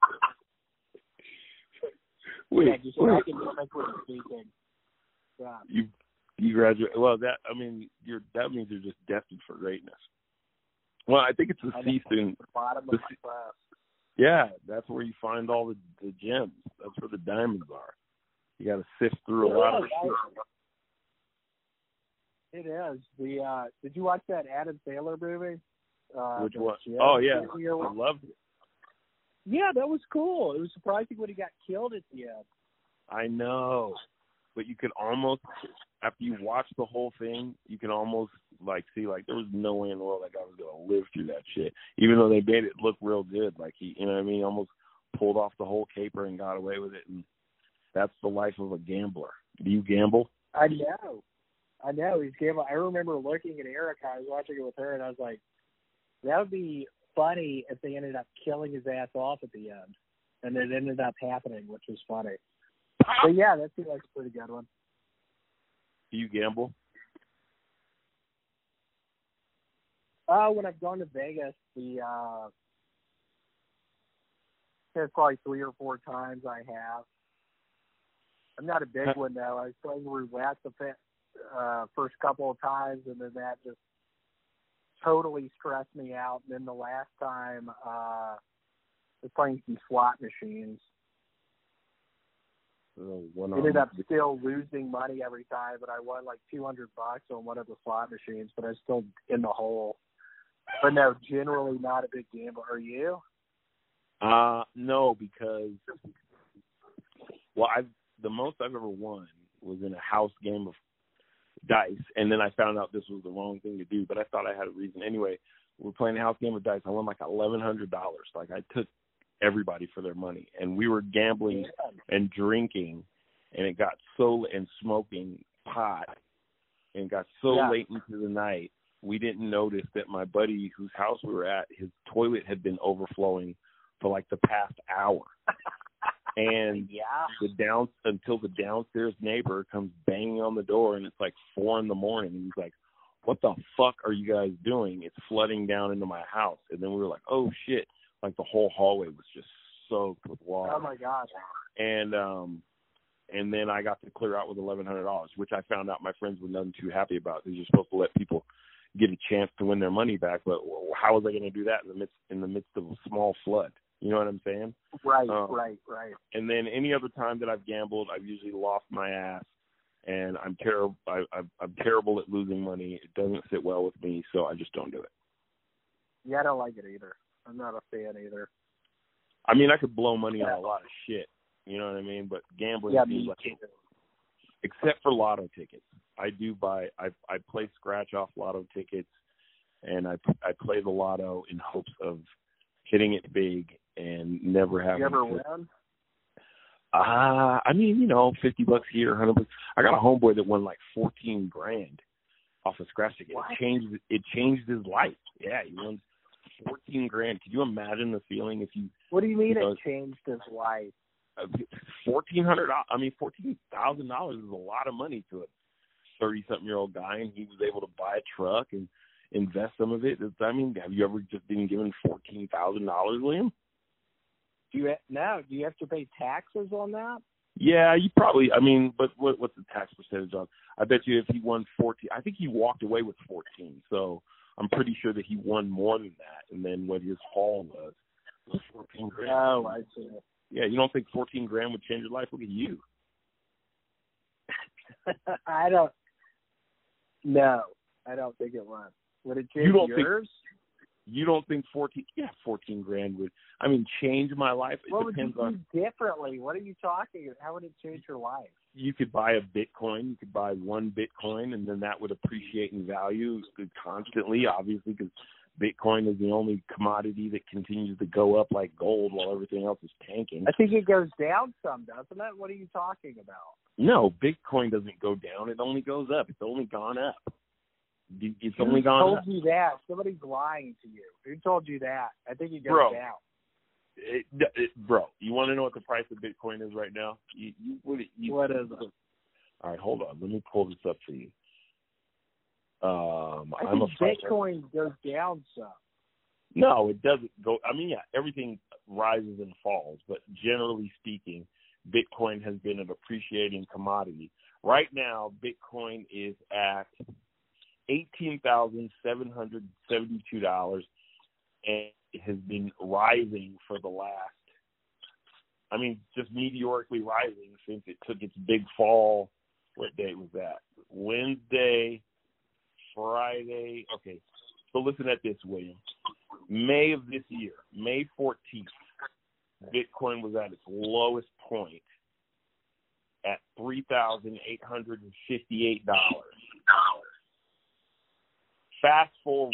Wait, yeah, just wait. academically speaking. Yeah. You you graduate. Well, that I mean, you're that means you're just destined for greatness. Well, I think it's the C student. The bottom the of my class. Yeah, that's where you find all the, the gems. That's where the diamonds are. You got to sift through a lot of shit. It is. The uh, did you watch that Adam Sandler movie? Uh, Which one? Gym? Oh yeah, I loved it. Yeah, that was cool. It was surprising when he got killed at the end. I know, but you could almost, after you watch the whole thing, you can almost like see like there was no way in the world that guy was gonna live through that shit. Even though they made it look real good, like he, you know what I mean, almost pulled off the whole caper and got away with it. And that's the life of a gambler. Do you gamble? I know. I know he's gambling. I remember looking at Erica. I was watching it with her, and I was like, that would be funny if they ended up killing his ass off at the end. And it ended up happening, which was funny. But yeah, that seems like a pretty good one. Do you gamble? Uh, when I've gone to Vegas, the uh, there's probably three or four times I have. I'm not a big one though. I was playing roulette the uh, first couple of times, and then that just totally stressed me out. And then the last time, uh, I was playing some slot machines. Oh, one Ended up still losing money every time, but I won like two hundred bucks on one of the slot machines, but I was still in the hole. But no, generally not a big gambler. Are you? Uh, no, because, well, I've, the most I've ever won was in a house game of dice, and then I found out this was the wrong thing to do, but I thought I had a reason. Anyway, we're playing a house game of dice. I won like eleven hundred dollars. Like, I took everybody for their money, and we were gambling and drinking, and it got so, and smoking pot, and got so yeah. late into the night, we didn't notice that my buddy whose house we were at, his toilet had been overflowing for like the past hour. And yeah. the down until the downstairs neighbor comes banging on the door, and it's like four in the morning, and he's like, "What the fuck are you guys doing? It's flooding down into my house." And then we were like, "Oh shit!" Like the whole hallway was just soaked with water. Oh my gosh. And um, and then I got to clear out with eleven hundred dollars, which I found out my friends were none too happy about, because you're supposed to let people get a chance to win their money back. But how was I going to do that in the midst in the midst of a small flood? You know what I'm saying? Right, um, right, right. And then any other time that I've gambled, I've usually lost my ass, and I'm terrible. I, I'm, I'm terrible at losing money. It doesn't sit well with me, so I just don't do it. Yeah, I don't like it either. I'm not a fan either. I mean, I could blow money on a lot of shit. You know what I mean? But gambling yeah, seems me like, too. except for lotto tickets. I do buy. I I play scratch off lotto tickets, and I I play the lotto in hopes of hitting it big and never having. You ever to, win? Uh, I mean, you know, fifty bucks here, one hundred bucks. I got a homeboy that won like fourteen grand off a scratch ticket. What? It changed. It changed his life. Yeah, he won fourteen grand. Could you imagine the feeling if you? What do you mean you know, it changed his life? Fourteen hundred. I mean, fourteen thousand dollars is a lot of money to a thirty-something-year-old guy, and he was able to buy a truck and invest some of it. I mean, have you ever just been given fourteen thousand dollars, Liam? Do you now? Do you have to pay taxes on that? Yeah, you probably. I mean, but what, what's the tax percentage on? I bet you if he won fourteen, I think he walked away with fourteen. So I'm pretty sure that he won more than that. And then what his haul was was fourteen grand. Oh, I see. Yeah, you don't think fourteen grand would change your life? Look at you. I don't. No, I don't think it would. Would it change You don't yours? You don't think fourteen? Yeah, fourteen grand would. I mean, change my life. It What would you depends on. do differently? What are you talking about? How would it change your life? You could buy a Bitcoin. You could buy one Bitcoin, and then that would appreciate in value constantly, obviously, because Bitcoin is the only commodity that continues to go up like gold while everything else is tanking. I think it goes down some, doesn't it? What are you talking about? No, Bitcoin doesn't go down. It only goes up. It's only gone up. It's only gone Who told up. you that? Somebody's lying to you. Who told you that? I think it goes Bro. down. It, it, bro, you want to know what the price of Bitcoin is right now? You, you, what, you, What is it? All right, hold on. Let me pull this up for you. Um, I I'm think a Bitcoin goes down some. No, it doesn't go. I mean, yeah, everything rises and falls, but generally speaking, Bitcoin has been an appreciating commodity. Right now, Bitcoin is at eighteen thousand seven hundred seventy-two dollars, and it has been rising for the last, I mean, just meteorically rising since it took its big fall. What day was that? Wednesday, Friday. Okay, so listen at this, William. May of this year, May fourteenth, Bitcoin was at its lowest point at three thousand eight hundred fifty-eight dollars. Fast forward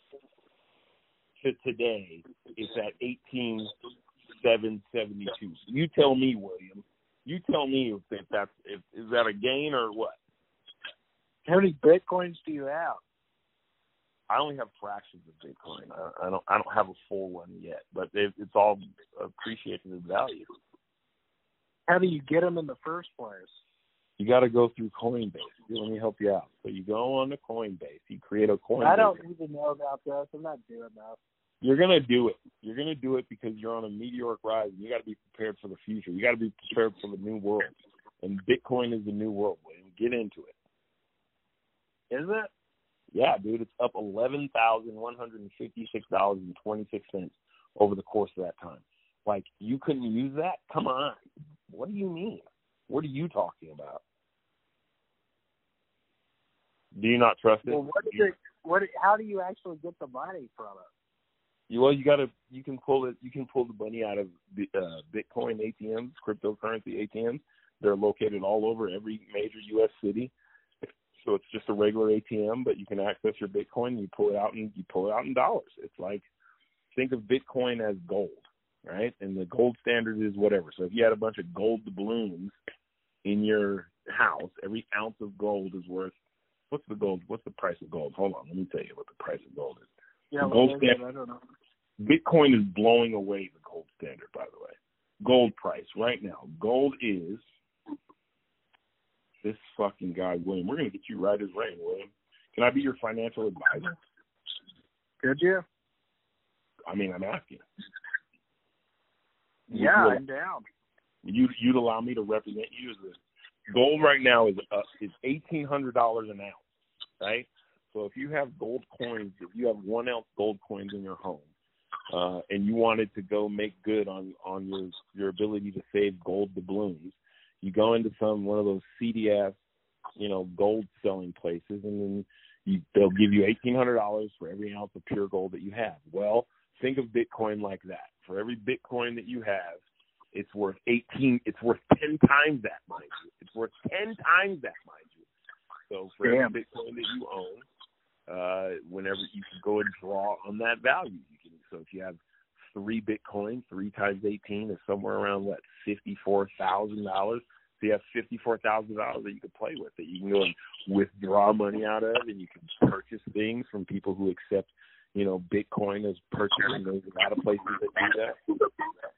to today, it's at eighteen thousand seven hundred seventy-two. You tell me, William. You tell me if that's if is that a gain or what? How many Bitcoins do you have? I only have fractions of Bitcoin. I, I don't. I don't have a full one yet, but it, it's all appreciated in value. How do you get them in the first place? You got to go through Coinbase. Let me help you out. So you go on to Coinbase. You create a Coinbase. I don't even know about this. I'm not doing that. You're gonna do it. You're gonna do it because you're on a meteoric rise. And you got to be prepared for the future. You got to be prepared for the new world. And Bitcoin is the new world, William. Get into it. Is it? Yeah, dude. It's up eleven thousand one hundred and fifty-six dollars and twenty-six cents over the course of that time. Like, you couldn't use that? Come on. What do you mean? What are you talking about? Do you not trust it? Well, what is it? What? How do you actually get the money from it? You, well, you gotta. You can pull it. You can pull the money out of the, uh, Bitcoin A T Ms, cryptocurrency A T Ms. They're located all over every major U S city. So it's just a regular A T M, but you can access your Bitcoin. You pull it out and you pull it out in dollars. It's like, think of Bitcoin as gold, right? And the gold standard is whatever. So if you had a bunch of gold doubloons in your house, every ounce of gold is worth. What's the gold? What's the price of gold? Hold on, let me tell you what the price of gold is. Yeah, the well, gold maybe, standard, I don't know. Bitcoin is blowing away the gold standard, by the way. Gold price right now. Gold is this fucking guy, William. We're going to get you right as rain, William. Can I be your financial advisor? Could you? I mean, I'm asking. Yeah, Would I'm down. you, you'd allow me to represent you as this. Gold right now is uh, is eighteen hundred dollars an ounce, right? So if you have gold coins, if you have one ounce gold coins in your home, uh, and you wanted to go make good on, on your your ability to save gold doubloons, you go into some one of those seedy ass, you know, gold selling places, and then you, they'll give you eighteen hundred dollars for every ounce of pure gold that you have. Well, think of Bitcoin like that. For every Bitcoin that you have, it's worth eighteen. It's worth ten times that, mind you. It's worth ten times that, mind you. So for Damn. every Bitcoin that you own, uh, whenever you can go and draw on that value, you can. So if you have three Bitcoin, three times eighteen is somewhere around what, fifty-four thousand dollars. So you have fifty-four thousand dollars that you can play with, that you can go and withdraw money out of, and you can purchase things from people who accept, you know, Bitcoin as purchasing. There's a lot of places that do that.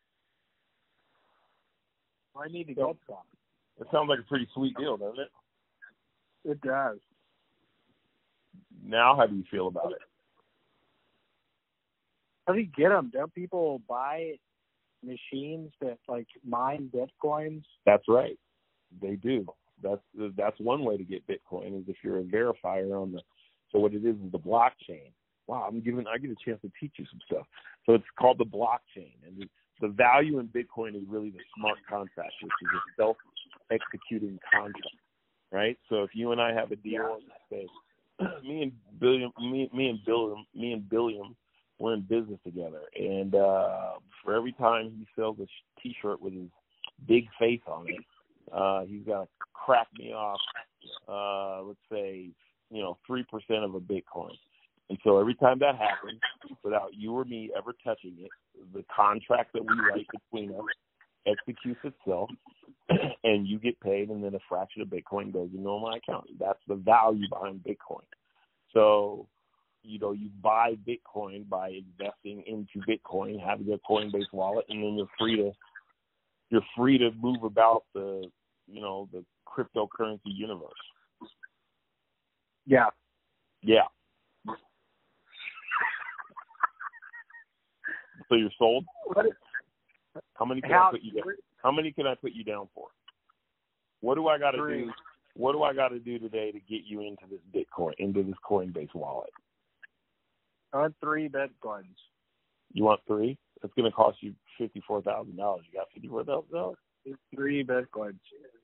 I need to get some. It sounds like a pretty sweet deal, doesn't it? It does. Now, how do you feel about it? How do you get them? Don't people buy machines that like mine Bitcoins? That's right. They do. That's that's one way to get Bitcoin, is if you're a verifier on the. So what it is is the blockchain. Wow, I'm giving. I get a chance to teach you some stuff. So it's called the blockchain, and the, the value in Bitcoin is really the smart contract, which is a self-executing contract, right? So if you and I have a deal, say, me and Billiam, me, me and Billiam, me and Billiam we're in business together. And uh, for every time he sells a sh- T-shirt with his big face on it, uh, he's got to crack me off, uh, let's say, you know, three percent of a Bitcoin. And so every time that happens, without you or me ever touching it, the contract that we write between us executes itself, and you get paid, and then a fraction of Bitcoin goes into my account. That's the value behind Bitcoin. So, you know, you buy Bitcoin by investing into Bitcoin, having a Coinbase wallet, and then you're free to you're free to move about the, you know, the cryptocurrency universe. Yeah. Yeah. So you're sold? How many can How, I put you down? How many can I put you down for? What do I got to do? What do I got to do today to get you into this Bitcoin, into this Coinbase wallet? I want three Bitcoins. You want three? That's going to cost you fifty-four thousand dollars. You got fifty-four thousand dollars? Three Bitcoins.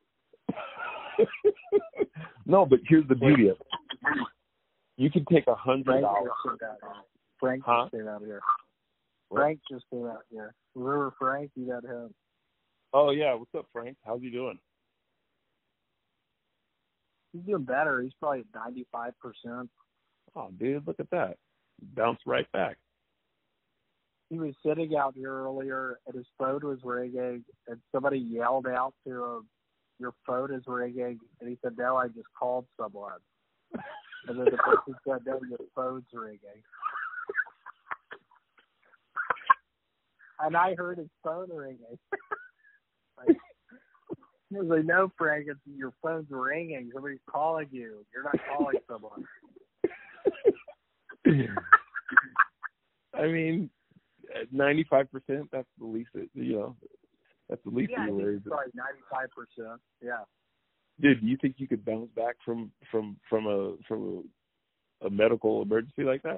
No, but here's the beauty of it. You can take a hundred dollars. Frank huh? just came out here. What? Frank just came out here. Remember Frank? You got him. Oh yeah, what's up, Frank? How's he doing? He's doing better. He's probably at ninety-five percent. Oh, dude, look at that. Bounce right back. He was sitting out here earlier, and his phone was ringing, and somebody yelled out to him, "Your phone is ringing," and he said, "No, I just called someone." And then the person said, "No, your phone's ringing." And I heard his phone ringing. Like, I was like, "No, Frank, it's, your phone's ringing. Somebody's calling you. You're not calling someone." I mean, at ninety-five percent, that's the least, it, you know, that's the least Yeah, of I your think worries. it's probably ninety-five percent. Yeah. Dude, do you think you could bounce back from from from a from a, a medical emergency like that?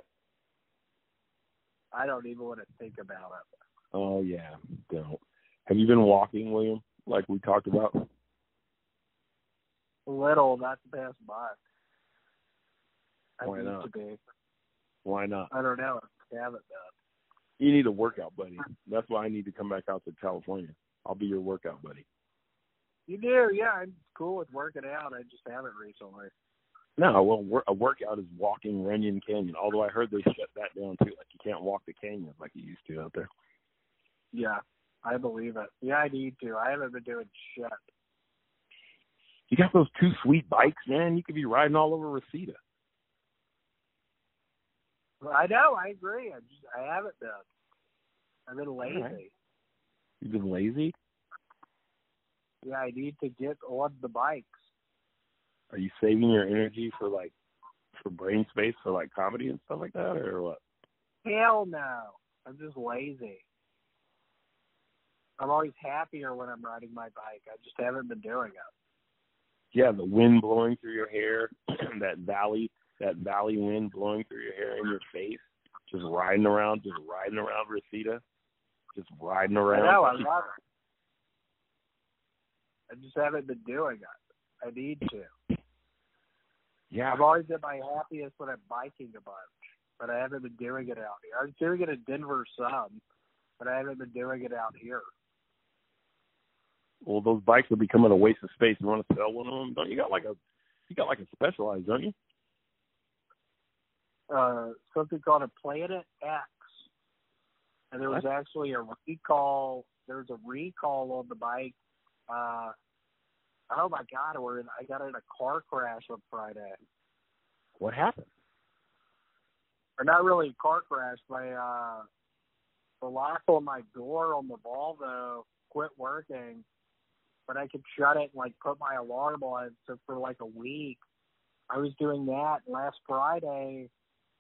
I don't even want to think about it. Oh yeah, don't. Have you been walking, William, like we talked about? Little, not the past month. I Why need not? to be. Why not? I don't know. I haven't done. You need a workout buddy. That's why I need to come back out to California. I'll be your workout buddy. You do, yeah. I'm cool with working out. I just haven't recently. No, well, wor- a workout is walking Runyon Canyon. Although I heard they shut that down too. Like you can't walk the canyons like you used to out there. Yeah, I believe it. Yeah, I need to. I haven't been doing shit. You got those two sweet bikes, man. You could be riding all over Reseda. Well, I know. I agree. I just I haven't been. I've been lazy. Right. You've been lazy? Yeah, I need to get on the bikes. Are you saving your energy for like for brain space for like comedy and stuff like that, or what? Hell no. I'm just lazy. I'm always happier when I'm riding my bike. I just haven't been doing it. Yeah, the wind blowing through your hair, that valley, that valley wind blowing through your hair in your face, just riding around, just riding around Reseda, just riding around. I know, I love it. I just haven't been doing it. I need to. Yeah, I've always been my happiest when I'm biking a bunch, but I haven't been doing it out here. I was doing it in Denver some, but I haven't been doing it out here. Well, those bikes are becoming a waste of space. You want to sell one of them? Don't you got like a, you got like a Specialized, don't you? Uh, something called a Planet X, and there was What? actually a recall. There was a recall on the bike. Uh, oh my God, we're in, I got in a car crash on Friday. What happened? Or not really a car crash. My uh, the lock on my door on the Volvo quit working, but I could shut it and like put my alarm on. So for like a week, I was doing that. Last Friday,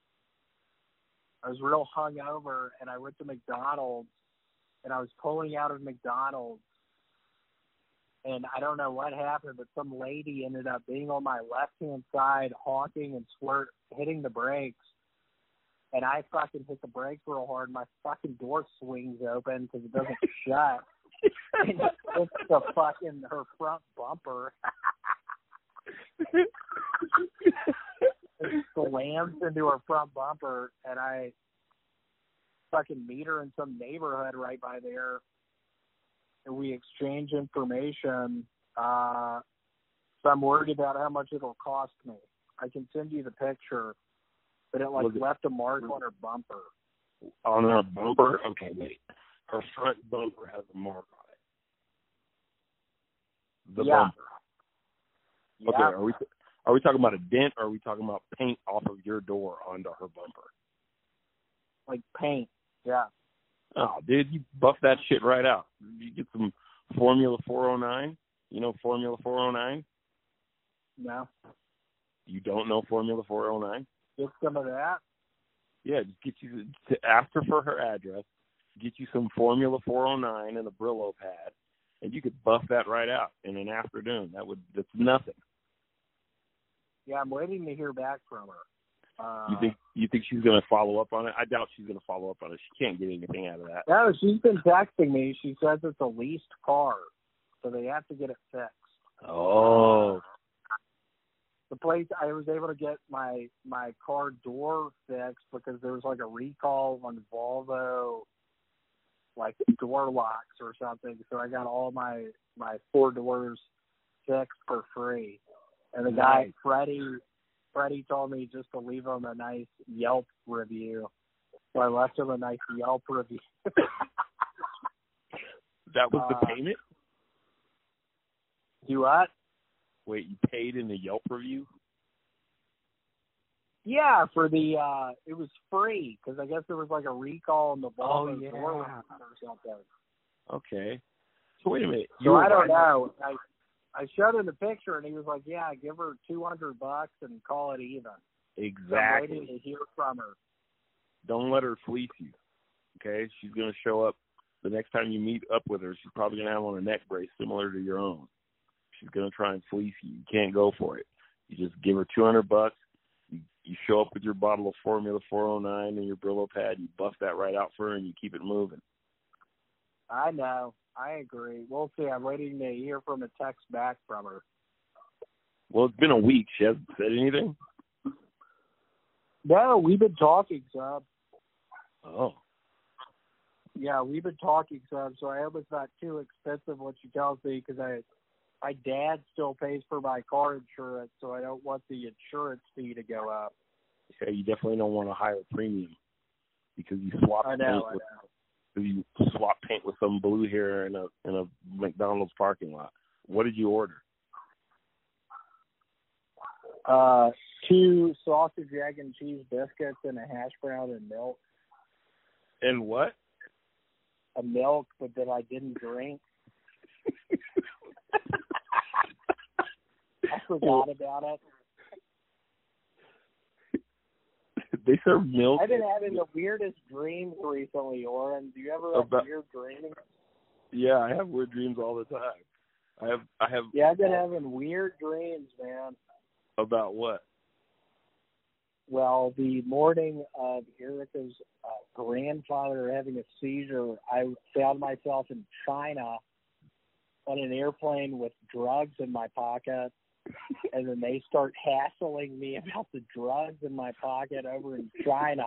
I was real hungover, and I went to McDonald's, and I was pulling out of McDonald's, and I don't know what happened, but some lady ended up being on my left-hand side, honking and squirt, hitting the brakes, and I fucking hit the brakes real hard, and my fucking door swings open because it doesn't shut. And it's the fucking, her front bumper. It slams into her front bumper, and I fucking meet her in some neighborhood right by there, and we exchange information. Uh, so I'm worried about how much it'll cost me. I can send you the picture, but it like Was it- left a mark on her bumper. On her bumper? Okay, wait. Her front bumper has a mark on it. The Yeah. bumper. Okay, Yeah. are we are we talking about a dent, or are we talking about paint off of your door onto her bumper? Like paint. Yeah. Oh, dude, you buff that shit right out. You get some Formula four oh nine. You know Formula four oh nine? No. You don't know Formula four oh nine? Get some of that. Yeah, just get you to ask her for her address, get you some Formula four oh nine and a Brillo pad, and you could buff that right out in an afternoon. That would that's nothing. Yeah, I'm waiting to hear back from her. Uh, You think you think she's gonna follow up on it? I doubt she's gonna follow up on it. She can't get anything out of that. No, she's been texting me. She says it's a leased car, so they have to get it fixed. Oh. The place I was able to get my my car door fixed because there was like a recall on Volvo, like door locks or something. So I got all my my four doors fixed for free. And the guy Nice. Freddie Freddie told me just to leave him a nice Yelp review. So I left him a nice Yelp review. That was the Uh, payment? Do what? Wait, you paid in the Yelp review? Yeah, for the uh, it was free because I guess there was like a recall on the Volvo Oh, yeah. door lock or something. Okay. So wait a minute. So I don't riding- know. I I showed him the picture and he was like, "Yeah, give her two hundred bucks and call it even." So I'm Exactly. waiting to hear from her. Don't let her fleece you. Okay? She's gonna show up the next time you meet up with her. She's probably gonna have on a neck brace similar to your own. She's gonna try and fleece you. You can't go for it. You just give her two hundred bucks. You, you show up with your bottle of Formula four oh nine and your Brillo pad. You buff that right out for her and you keep it moving. I know. I agree. We'll see. I'm waiting to hear from a text back from her. Well, it's been a week. She hasn't said anything. No, we've been talking some. Oh. Yeah, we've been talking some, so I hope it's not too expensive what she tells me because I, my dad still pays for my car insurance, so I don't want the insurance fee to go up. Yeah, you definitely don't want a higher premium because you swap I paint know, I with know. you swap paint with some blue here in a in a McDonald's parking lot. What did you order? Uh, two sausage, egg, and cheese biscuits and a hash brown and milk. And what? A milk, but that I didn't drink. I forgot about it. They serve milk. I've been having the weirdest dreams recently, Oren. Do you ever have About- weird dreams? Yeah, I have weird dreams all the time. I have I have Yeah, I've been having weird dreams, man. about what? Well, the morning of Erica's uh, grandfather having a seizure, I found myself in China on an airplane with drugs in my pocket, and then they start hassling me about the drugs in my pocket over in China.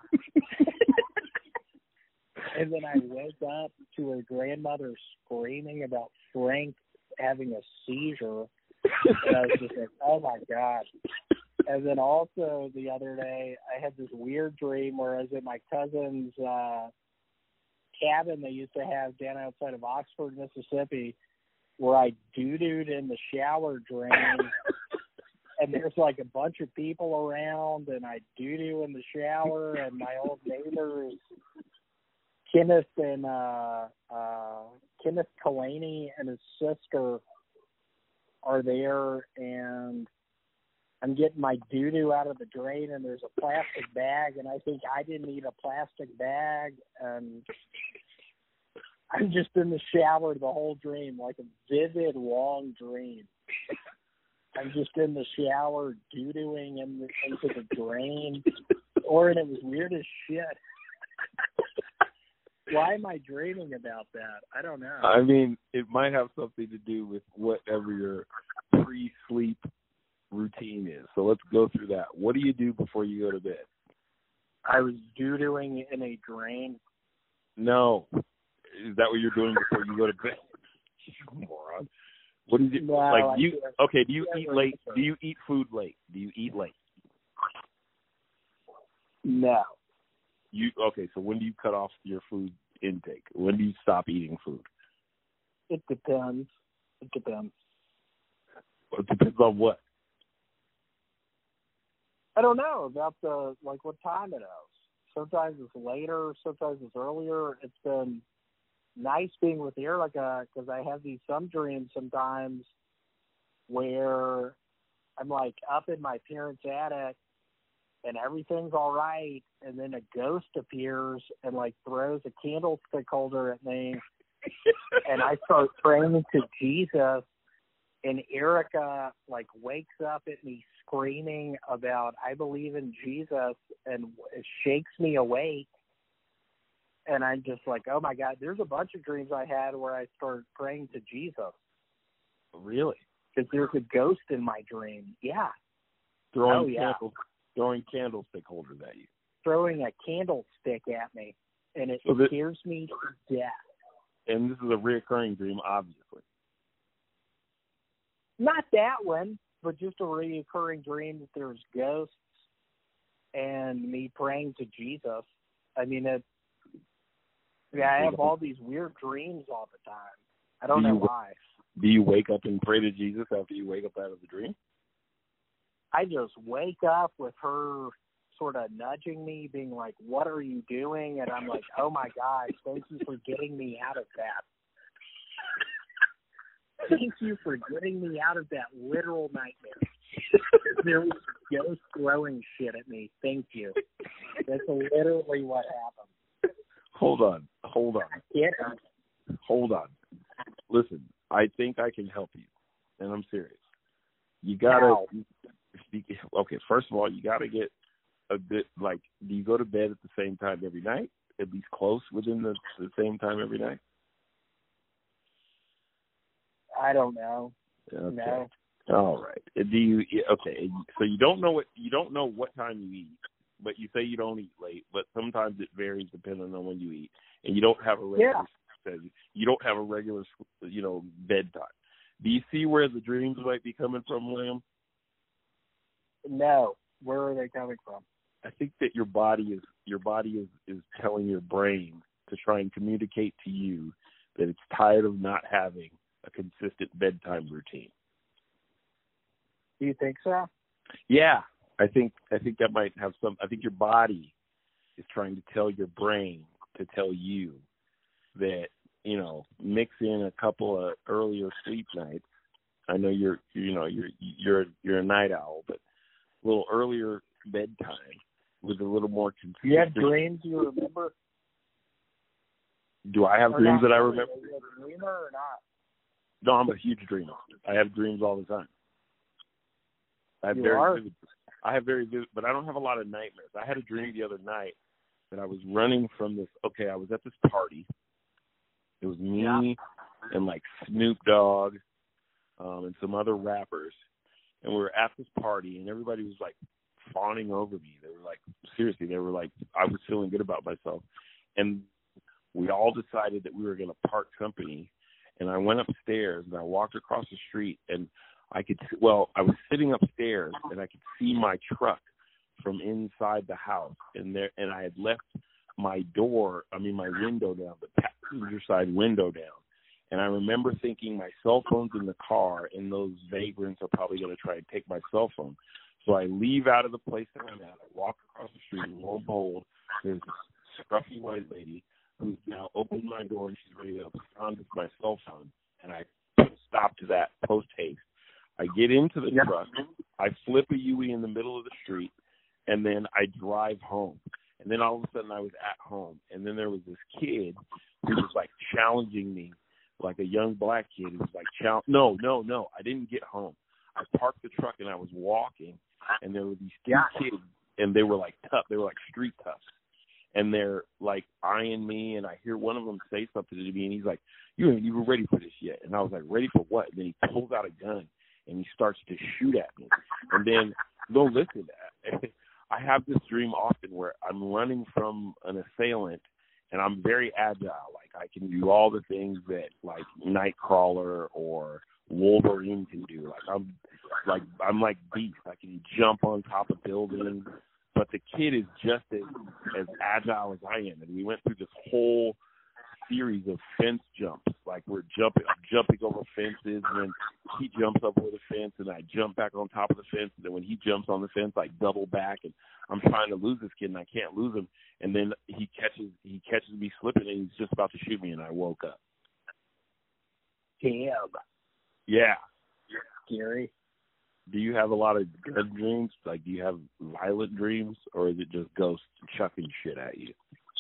And then I woke up to her grandmother screaming about Frank having a seizure. And I was just like, oh, my God. And then also the other day, I had this weird dream where I was at my cousin's uh, cabin they used to have down outside of Oxford, Mississippi, where I doo-dooed in the shower drain. And there's like a bunch of people around, and I doo-doo in the shower, and my old neighbors, Kenneth and uh, uh, Kenneth Kalani and his sister are there, and I'm getting my doo-doo out of the drain, and there's a plastic bag, and I think I didn't need a plastic bag, and I'm just in the shower the whole dream, like a vivid, long dream. I'm just in the shower doo-dooing in the, into the drain, or and it was weird as shit. Why am I dreaming about that? I don't know. I mean, it might have something to do with whatever your pre-sleep routine is. So let's go through that. What do you do before you go to bed? I was doo-dooing in a drain. No. Is that what you're doing before you go to bed? You moron. What is it? No, like I you? can't. Okay. Do you I eat can't late? answer. Do you eat food late? Do you eat late? No. You okay? So when do you cut off your food intake? When do you stop eating food? It depends. It depends. It depends on what. I don't know about the, like, what time it is. Sometimes it's later, sometimes it's earlier. It's been nice being with Erica because I have these some dreams sometimes where I'm, like, up in my parents' attic and everything's all right, and then a ghost appears and, like, throws a candlestick holder at me, and I start praying to Jesus, and Erica, like, wakes up at me screaming about, I believe in Jesus, and shakes me awake. And I'm just like, oh, my God, there's a bunch of dreams I had where I started praying to Jesus. Really? Because there's a ghost in my dream. Yeah. Throwing Oh, yeah. candles, throwing candlestick holders at you. Throwing a candlestick at me, and it So that- scares me to death. And this is a reoccurring dream, obviously. Not that one, but just a recurring dream that there's ghosts and me praying to Jesus. I mean, it, yeah, I have all these weird dreams all the time. I don't Do know you- why. Do you wake up and pray to Jesus after you wake up out of the dream? I just wake up with her sort of nudging me, being like, what are you doing? And I'm like, oh, my gosh, thank you for getting me out of that. Thank you for getting me out of that literal nightmare. There was ghosts throwing shit at me. Thank you. That's literally what happened. Hold on. Hold on. Yeah. Hold on. Listen, I think I can help you, and I'm serious. You gotta. How? Okay, first of all, you gotta get a bit like. Do you go to bed at the same time every night? At least close within the, the same time every night? I don't know. Okay. No. All right. Do you? Okay. So you don't know what you don't know what time you eat, but you say you don't eat late. But sometimes it varies depending on when you eat, and you don't have a regular. Yeah. You don't have a regular, you know, bedtime. Do you see where the dreams might be coming from, William? No. Where are they coming from? I think that your body is your body is, is telling your brain to try and communicate to you that it's tired of not having a consistent bedtime routine. Do you think so? Yeah, I think I think that might have some. I think your body is trying to tell your brain to tell you that, you know, mix in a couple of earlier sleep nights. I know you're you know you're you're you're a night owl, but a little earlier bedtime with a little more consistent. Do you have dreams you remember? Do I have Or dreams not that I really? remember? Are you a dreamer or not? No, I'm a huge dreamer. I have dreams all the time. I have You very are? vivid. I have very vivid, but I don't have a lot of nightmares. I had a dream the other night that I was running from this. Okay, I was at this party. It was me Yeah. and like Snoop Dogg um, and some other rappers, and we were at this party, and everybody was like fawning over me. They were like, seriously, they were like, I was feeling good about myself, and we all decided that we were going to part company. And I went upstairs and I walked across the street, and I could, well, I was sitting upstairs and I could see my truck from inside the house, and there, and I had left my door, I mean my window down, the passenger side window down. And I remember thinking my cell phone's in the car, and those vagrants are probably going to try and take my cell phone. So I leave out of the place that I'm at. I walk across the street, and lo and behold, there's this scruffy white lady who's now opened my door, and she's ready to pound with my cell phone. And I stop to that post haste. I get into the Yep. truck. I flip a U-E in the middle of the street, and then I drive home. And then all of a sudden I was at home, and then there was this kid who was like challenging me, like a young black kid who was like, chal- no, no, no, I didn't get home. I parked the truck and I was walking, and there were these two Yeah. kids, and they were like tough. They were like street toughs. And they're like eyeing me, and I hear one of them say something to me, and he's like, you ain't even ready for this yet. And I was like, ready for what? And then he pulls out a gun, and he starts to shoot at me. And then, no, listen, I have this dream often where I'm running from an assailant, and I'm very agile. Like I can do all the things that like Nightcrawler or Wolverine can do. Like I'm like I'm like Beast. I can jump on top of buildings. But the kid is just as, as agile as I am, and we went through this whole series of fence jumps. Like we're jumping, I'm jumping over fences, and then he jumps up over the fence, and I jump back on top of the fence. And then when he jumps on the fence, I double back, and I'm trying to lose this kid, and I can't lose him. And then he catches he catches me slipping, and he's just about to shoot me, and I woke up. Damn. Yeah. Scary. Do you have a lot of good dreams? Like, do you have violent dreams, or is it just ghosts chucking shit at you?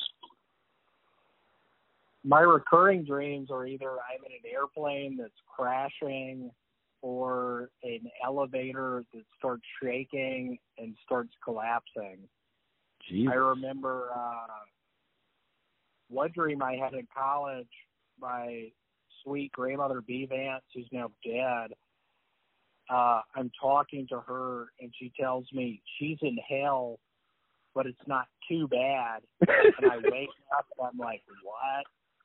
My recurring dreams are either I'm in an airplane that's crashing or an elevator that starts shaking and starts collapsing. Jesus. I remember uh, one dream I had in college, my sweet grandmother B. Vance, who's now dead, uh, I'm talking to her, and she tells me she's in hell, but it's not too bad. And I wake up, and I'm like, what?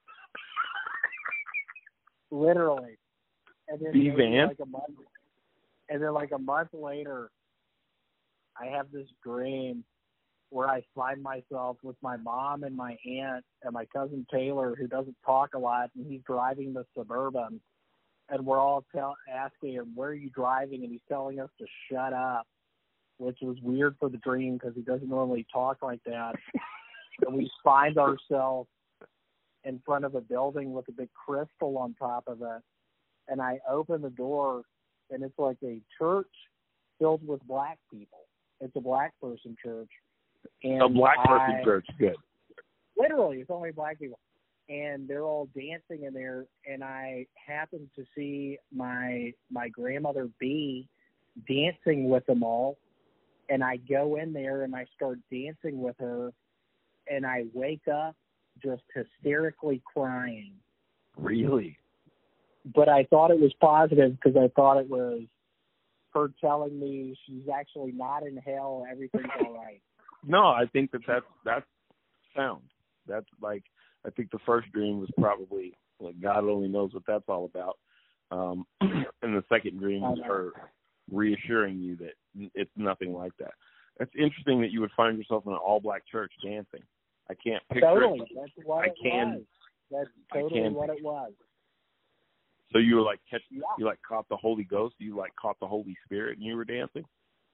Literally. And then B. Vance? Like a month, and then like a month later, I have this dream where I find myself with my mom and my aunt and my cousin Taylor, who doesn't talk a lot, and he's driving the Suburban. And we're all tell, asking him, where are you driving? And he's telling us to shut up, which was weird for the dream because he doesn't normally talk like that. And we find ourselves in front of a building with a big crystal on top of it. And I open the door, and it's like a church filled with black people. It's a black person church. And a black person I, church, good. Literally, it's only black people. And they're all dancing in there, and I happen to see my my grandmother B dancing with them all, and I go in there and I start dancing with her, and I wake up just hysterically crying. Really? But I thought it was positive because I thought it was her telling me she's actually not in hell, everything's all right. No, I think that that's, that's sound. That's like, I think the first dream was probably, like, God only knows what that's all about. Um, and the second dream was her reassuring you that it's nothing like that. It's interesting that you would find yourself in an all-black church dancing. I can't picture totally. it. That's what I it can, was. That's totally what it was. So you were like, catch, Yeah. you like caught the Holy Ghost, you like caught the Holy Spirit, and you were dancing?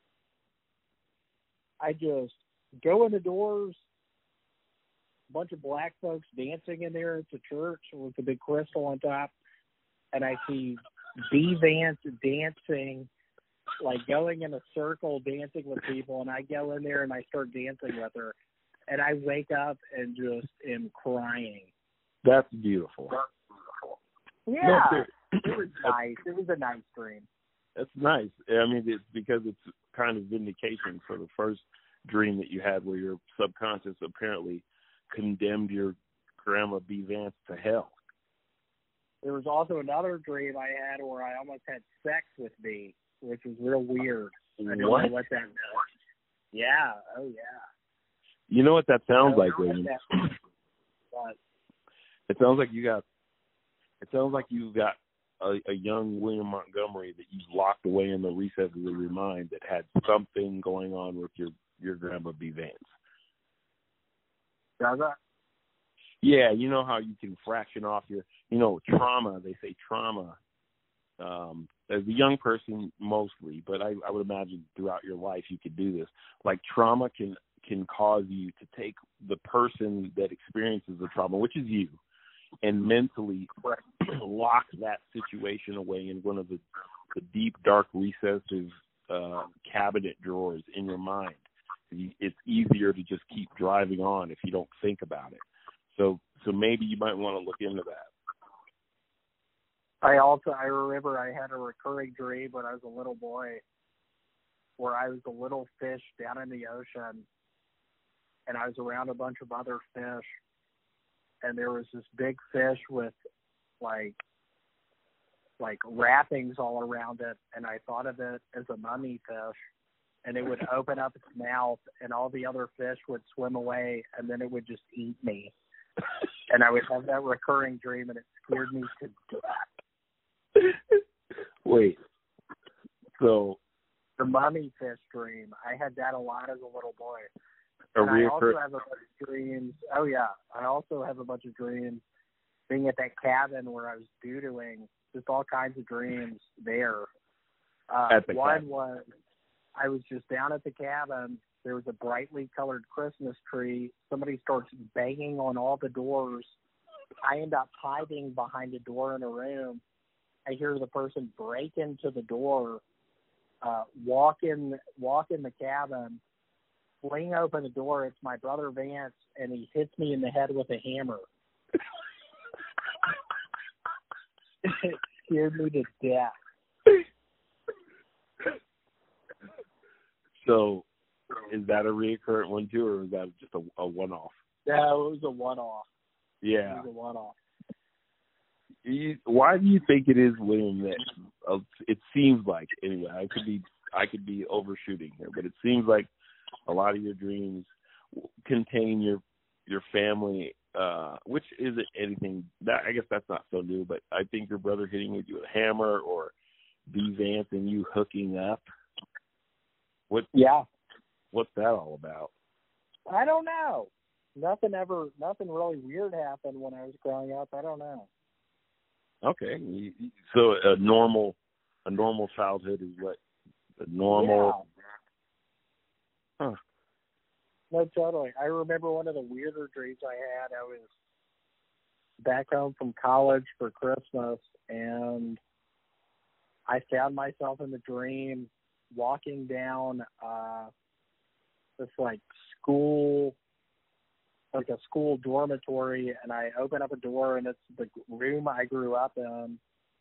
I just go in the doors, a bunch of black folks dancing in there at the church with the big crystal on top, and I see B. Vance dancing, like going in a circle dancing with people, and I go in there and I start dancing with her, and I wake up and just am crying. That's beautiful. Yeah, No, it was nice. It was a nice dream. That's nice. I mean, it's because it's kind of vindication for the first dream that you had where your subconscious apparently condemned your grandma B. Vance to hell. There was also another dream I had where I almost had sex with B, which was real weird. I don't What? know what that meant. Yeah, oh yeah. You know what that sounds I like, don't know William? what that- but It sounds like you got. It sounds like you got a, a young William Montgomery that you locked away in the recesses of your mind that had something going on with your your grandma B. Vance. does that? Yeah, you know how you can fraction off your, you know, trauma. They say trauma. Um, as a young person, mostly, but I, I would imagine throughout your life you could do this. Like trauma can can cause you to take the person that experiences the trauma, which is you, and mentally lock that situation away in one of the, the deep, dark, recessive uh, cabinet drawers in your mind. It's easier to just keep driving on if you don't think about it. So, so maybe you might want to look into that. I also, I remember I had a recurring dream when I was a little boy where I was a little fish down in the ocean, and I was around a bunch of other fish, and there was this big fish with like like wrappings all around it, and I thought of it as a mummy fish. and it would open up its mouth, and all the other fish would swim away, and then it would just eat me. And I would have that recurring dream, and it scared me to death. Wait. So The mummy fish dream. I had that a lot as a little boy. a And I also reoccur- have a bunch of dreams. Oh, yeah. I also have a bunch of dreams being at that cabin where I was doodling, just all kinds of dreams there. Uh, At the one cabin. was I was just down at the cabin. There was a brightly colored Christmas tree. Somebody starts banging on all the doors. I end up hiding behind a door in a room. I hear the person break into the door, uh, walk in, walk in the cabin, fling open the door. It's my brother Vance, and he hits me in the head with a hammer. It scared me to death. So, is that a recurrent one too, or is that just a, a one-off? No, it was a one-off. Yeah. It was a one-off. You, why do you think it is, William? That uh, it seems like anyway. I could be I could be overshooting here, but it seems like a lot of your dreams contain your your family, uh, which isn't anything that I guess that's not so new. But I think your brother hitting you with a hammer, or B Vance and you hooking up. What? Yeah. What's that all about? I don't know. Nothing ever, nothing really weird happened when I was growing up. I don't know. Okay, You- you- so a normal a normal childhood is what a normal. Yeah. Huh. No, totally. I remember one of the weirder dreams I had. I was back home from college for Christmas, and I found myself in the dream walking down uh, this like school, like a school dormitory, and I open up a door, and it's the room I grew up in,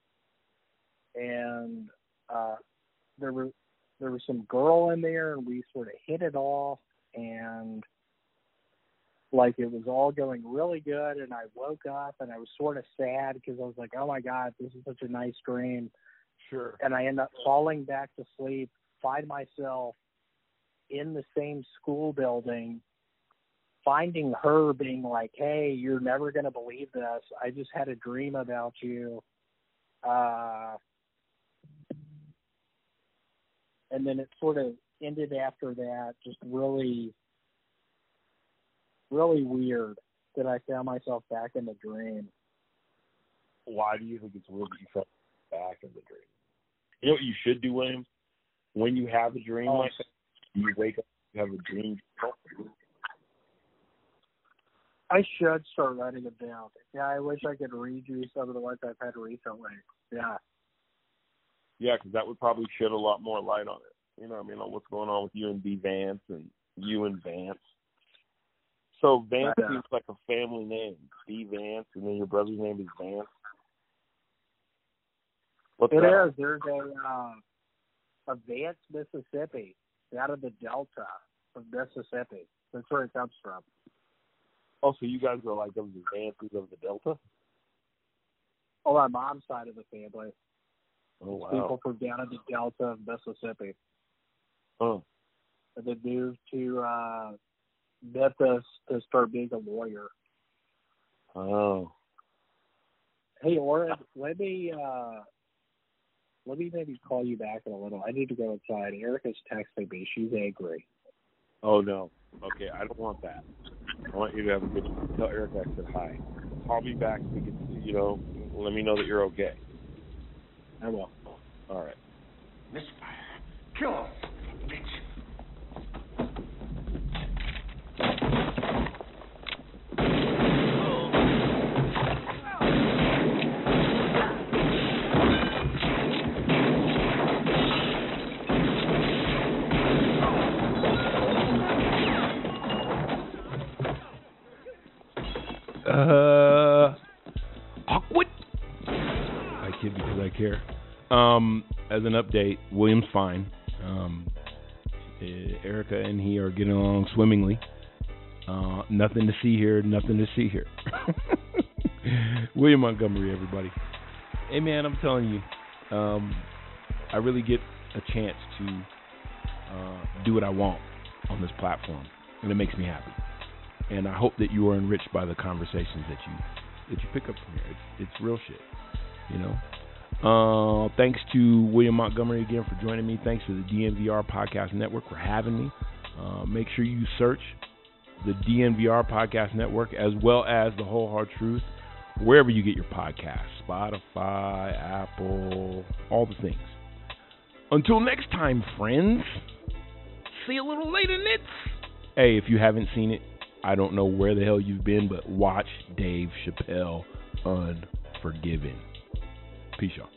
and uh, there were there was some girl in there, and we sort of hit it off, and like it was all going really good, and I woke up, and I was sort of sad because I was like, oh my God, this is such a nice dream. Sure. And I end up falling back to sleep, find myself in the same school building, finding her being like, hey, you're never going to believe this. I just had a dream about you. Uh, and then it sort of ended after that, just really, really weird that I found myself back in the dream. Why do you think it's weird that you felt back in the dream? You know what you should do, William? When you have a dream Oh. like that, you wake up, you have a dream. I should start writing it down. Yeah, I wish I could read you some of the ones I've had recently. Yeah. Yeah, because that would probably shed a lot more light on it. You know what I mean? On what's going on with you and B Vance and you and Vance. So Vance Yeah. seems like a family name. B Vance, and then your brother's name is Vance. What's It that? is. There's a uh, a Vance, Mississippi, out of the Delta of Mississippi. That's where it comes from. Oh, so you guys are like of the Vances of the Delta? On my mom's side of the family. Oh, wow. People from down in the Delta of Mississippi. Huh. And they moved to uh, Memphis to start being a lawyer. Oh. Hey, Oren, let me uh, let me maybe call you back in a little. I need to go inside. Erica's texting me. She's angry. Oh, no. Okay, I don't want that. I want you to have a good tell Erica I said hi. Call me back so we can, you know, let me know that you're okay. I will. All right. Misfire. Kill him, bitch. Uh, awkward. I kid because I care. Um, as an update, William's fine. Um, eh, Erica and he are getting along swimmingly. Uh, nothing to see here. Nothing to see here. William Montgomery, everybody. Hey man, I'm telling you, um, I really get a chance to uh, do what I want on this platform, and it makes me happy. And I hope that you are enriched by the conversations that you that you pick up from here. It's, it's real shit, you know. Uh, thanks to William Montgomery again for joining me. Thanks to the D N V R Podcast Network for having me. Uh, make sure you search the D N V R Podcast Network as well as The Whole Hard Truth wherever you get your podcasts. Spotify, Apple, all the things. Until next time, friends. See you a little later, nits. Hey, if you haven't seen it, I don't know where the hell you've been, but watch Dave Chappelle Unforgiven. Peace, y'all.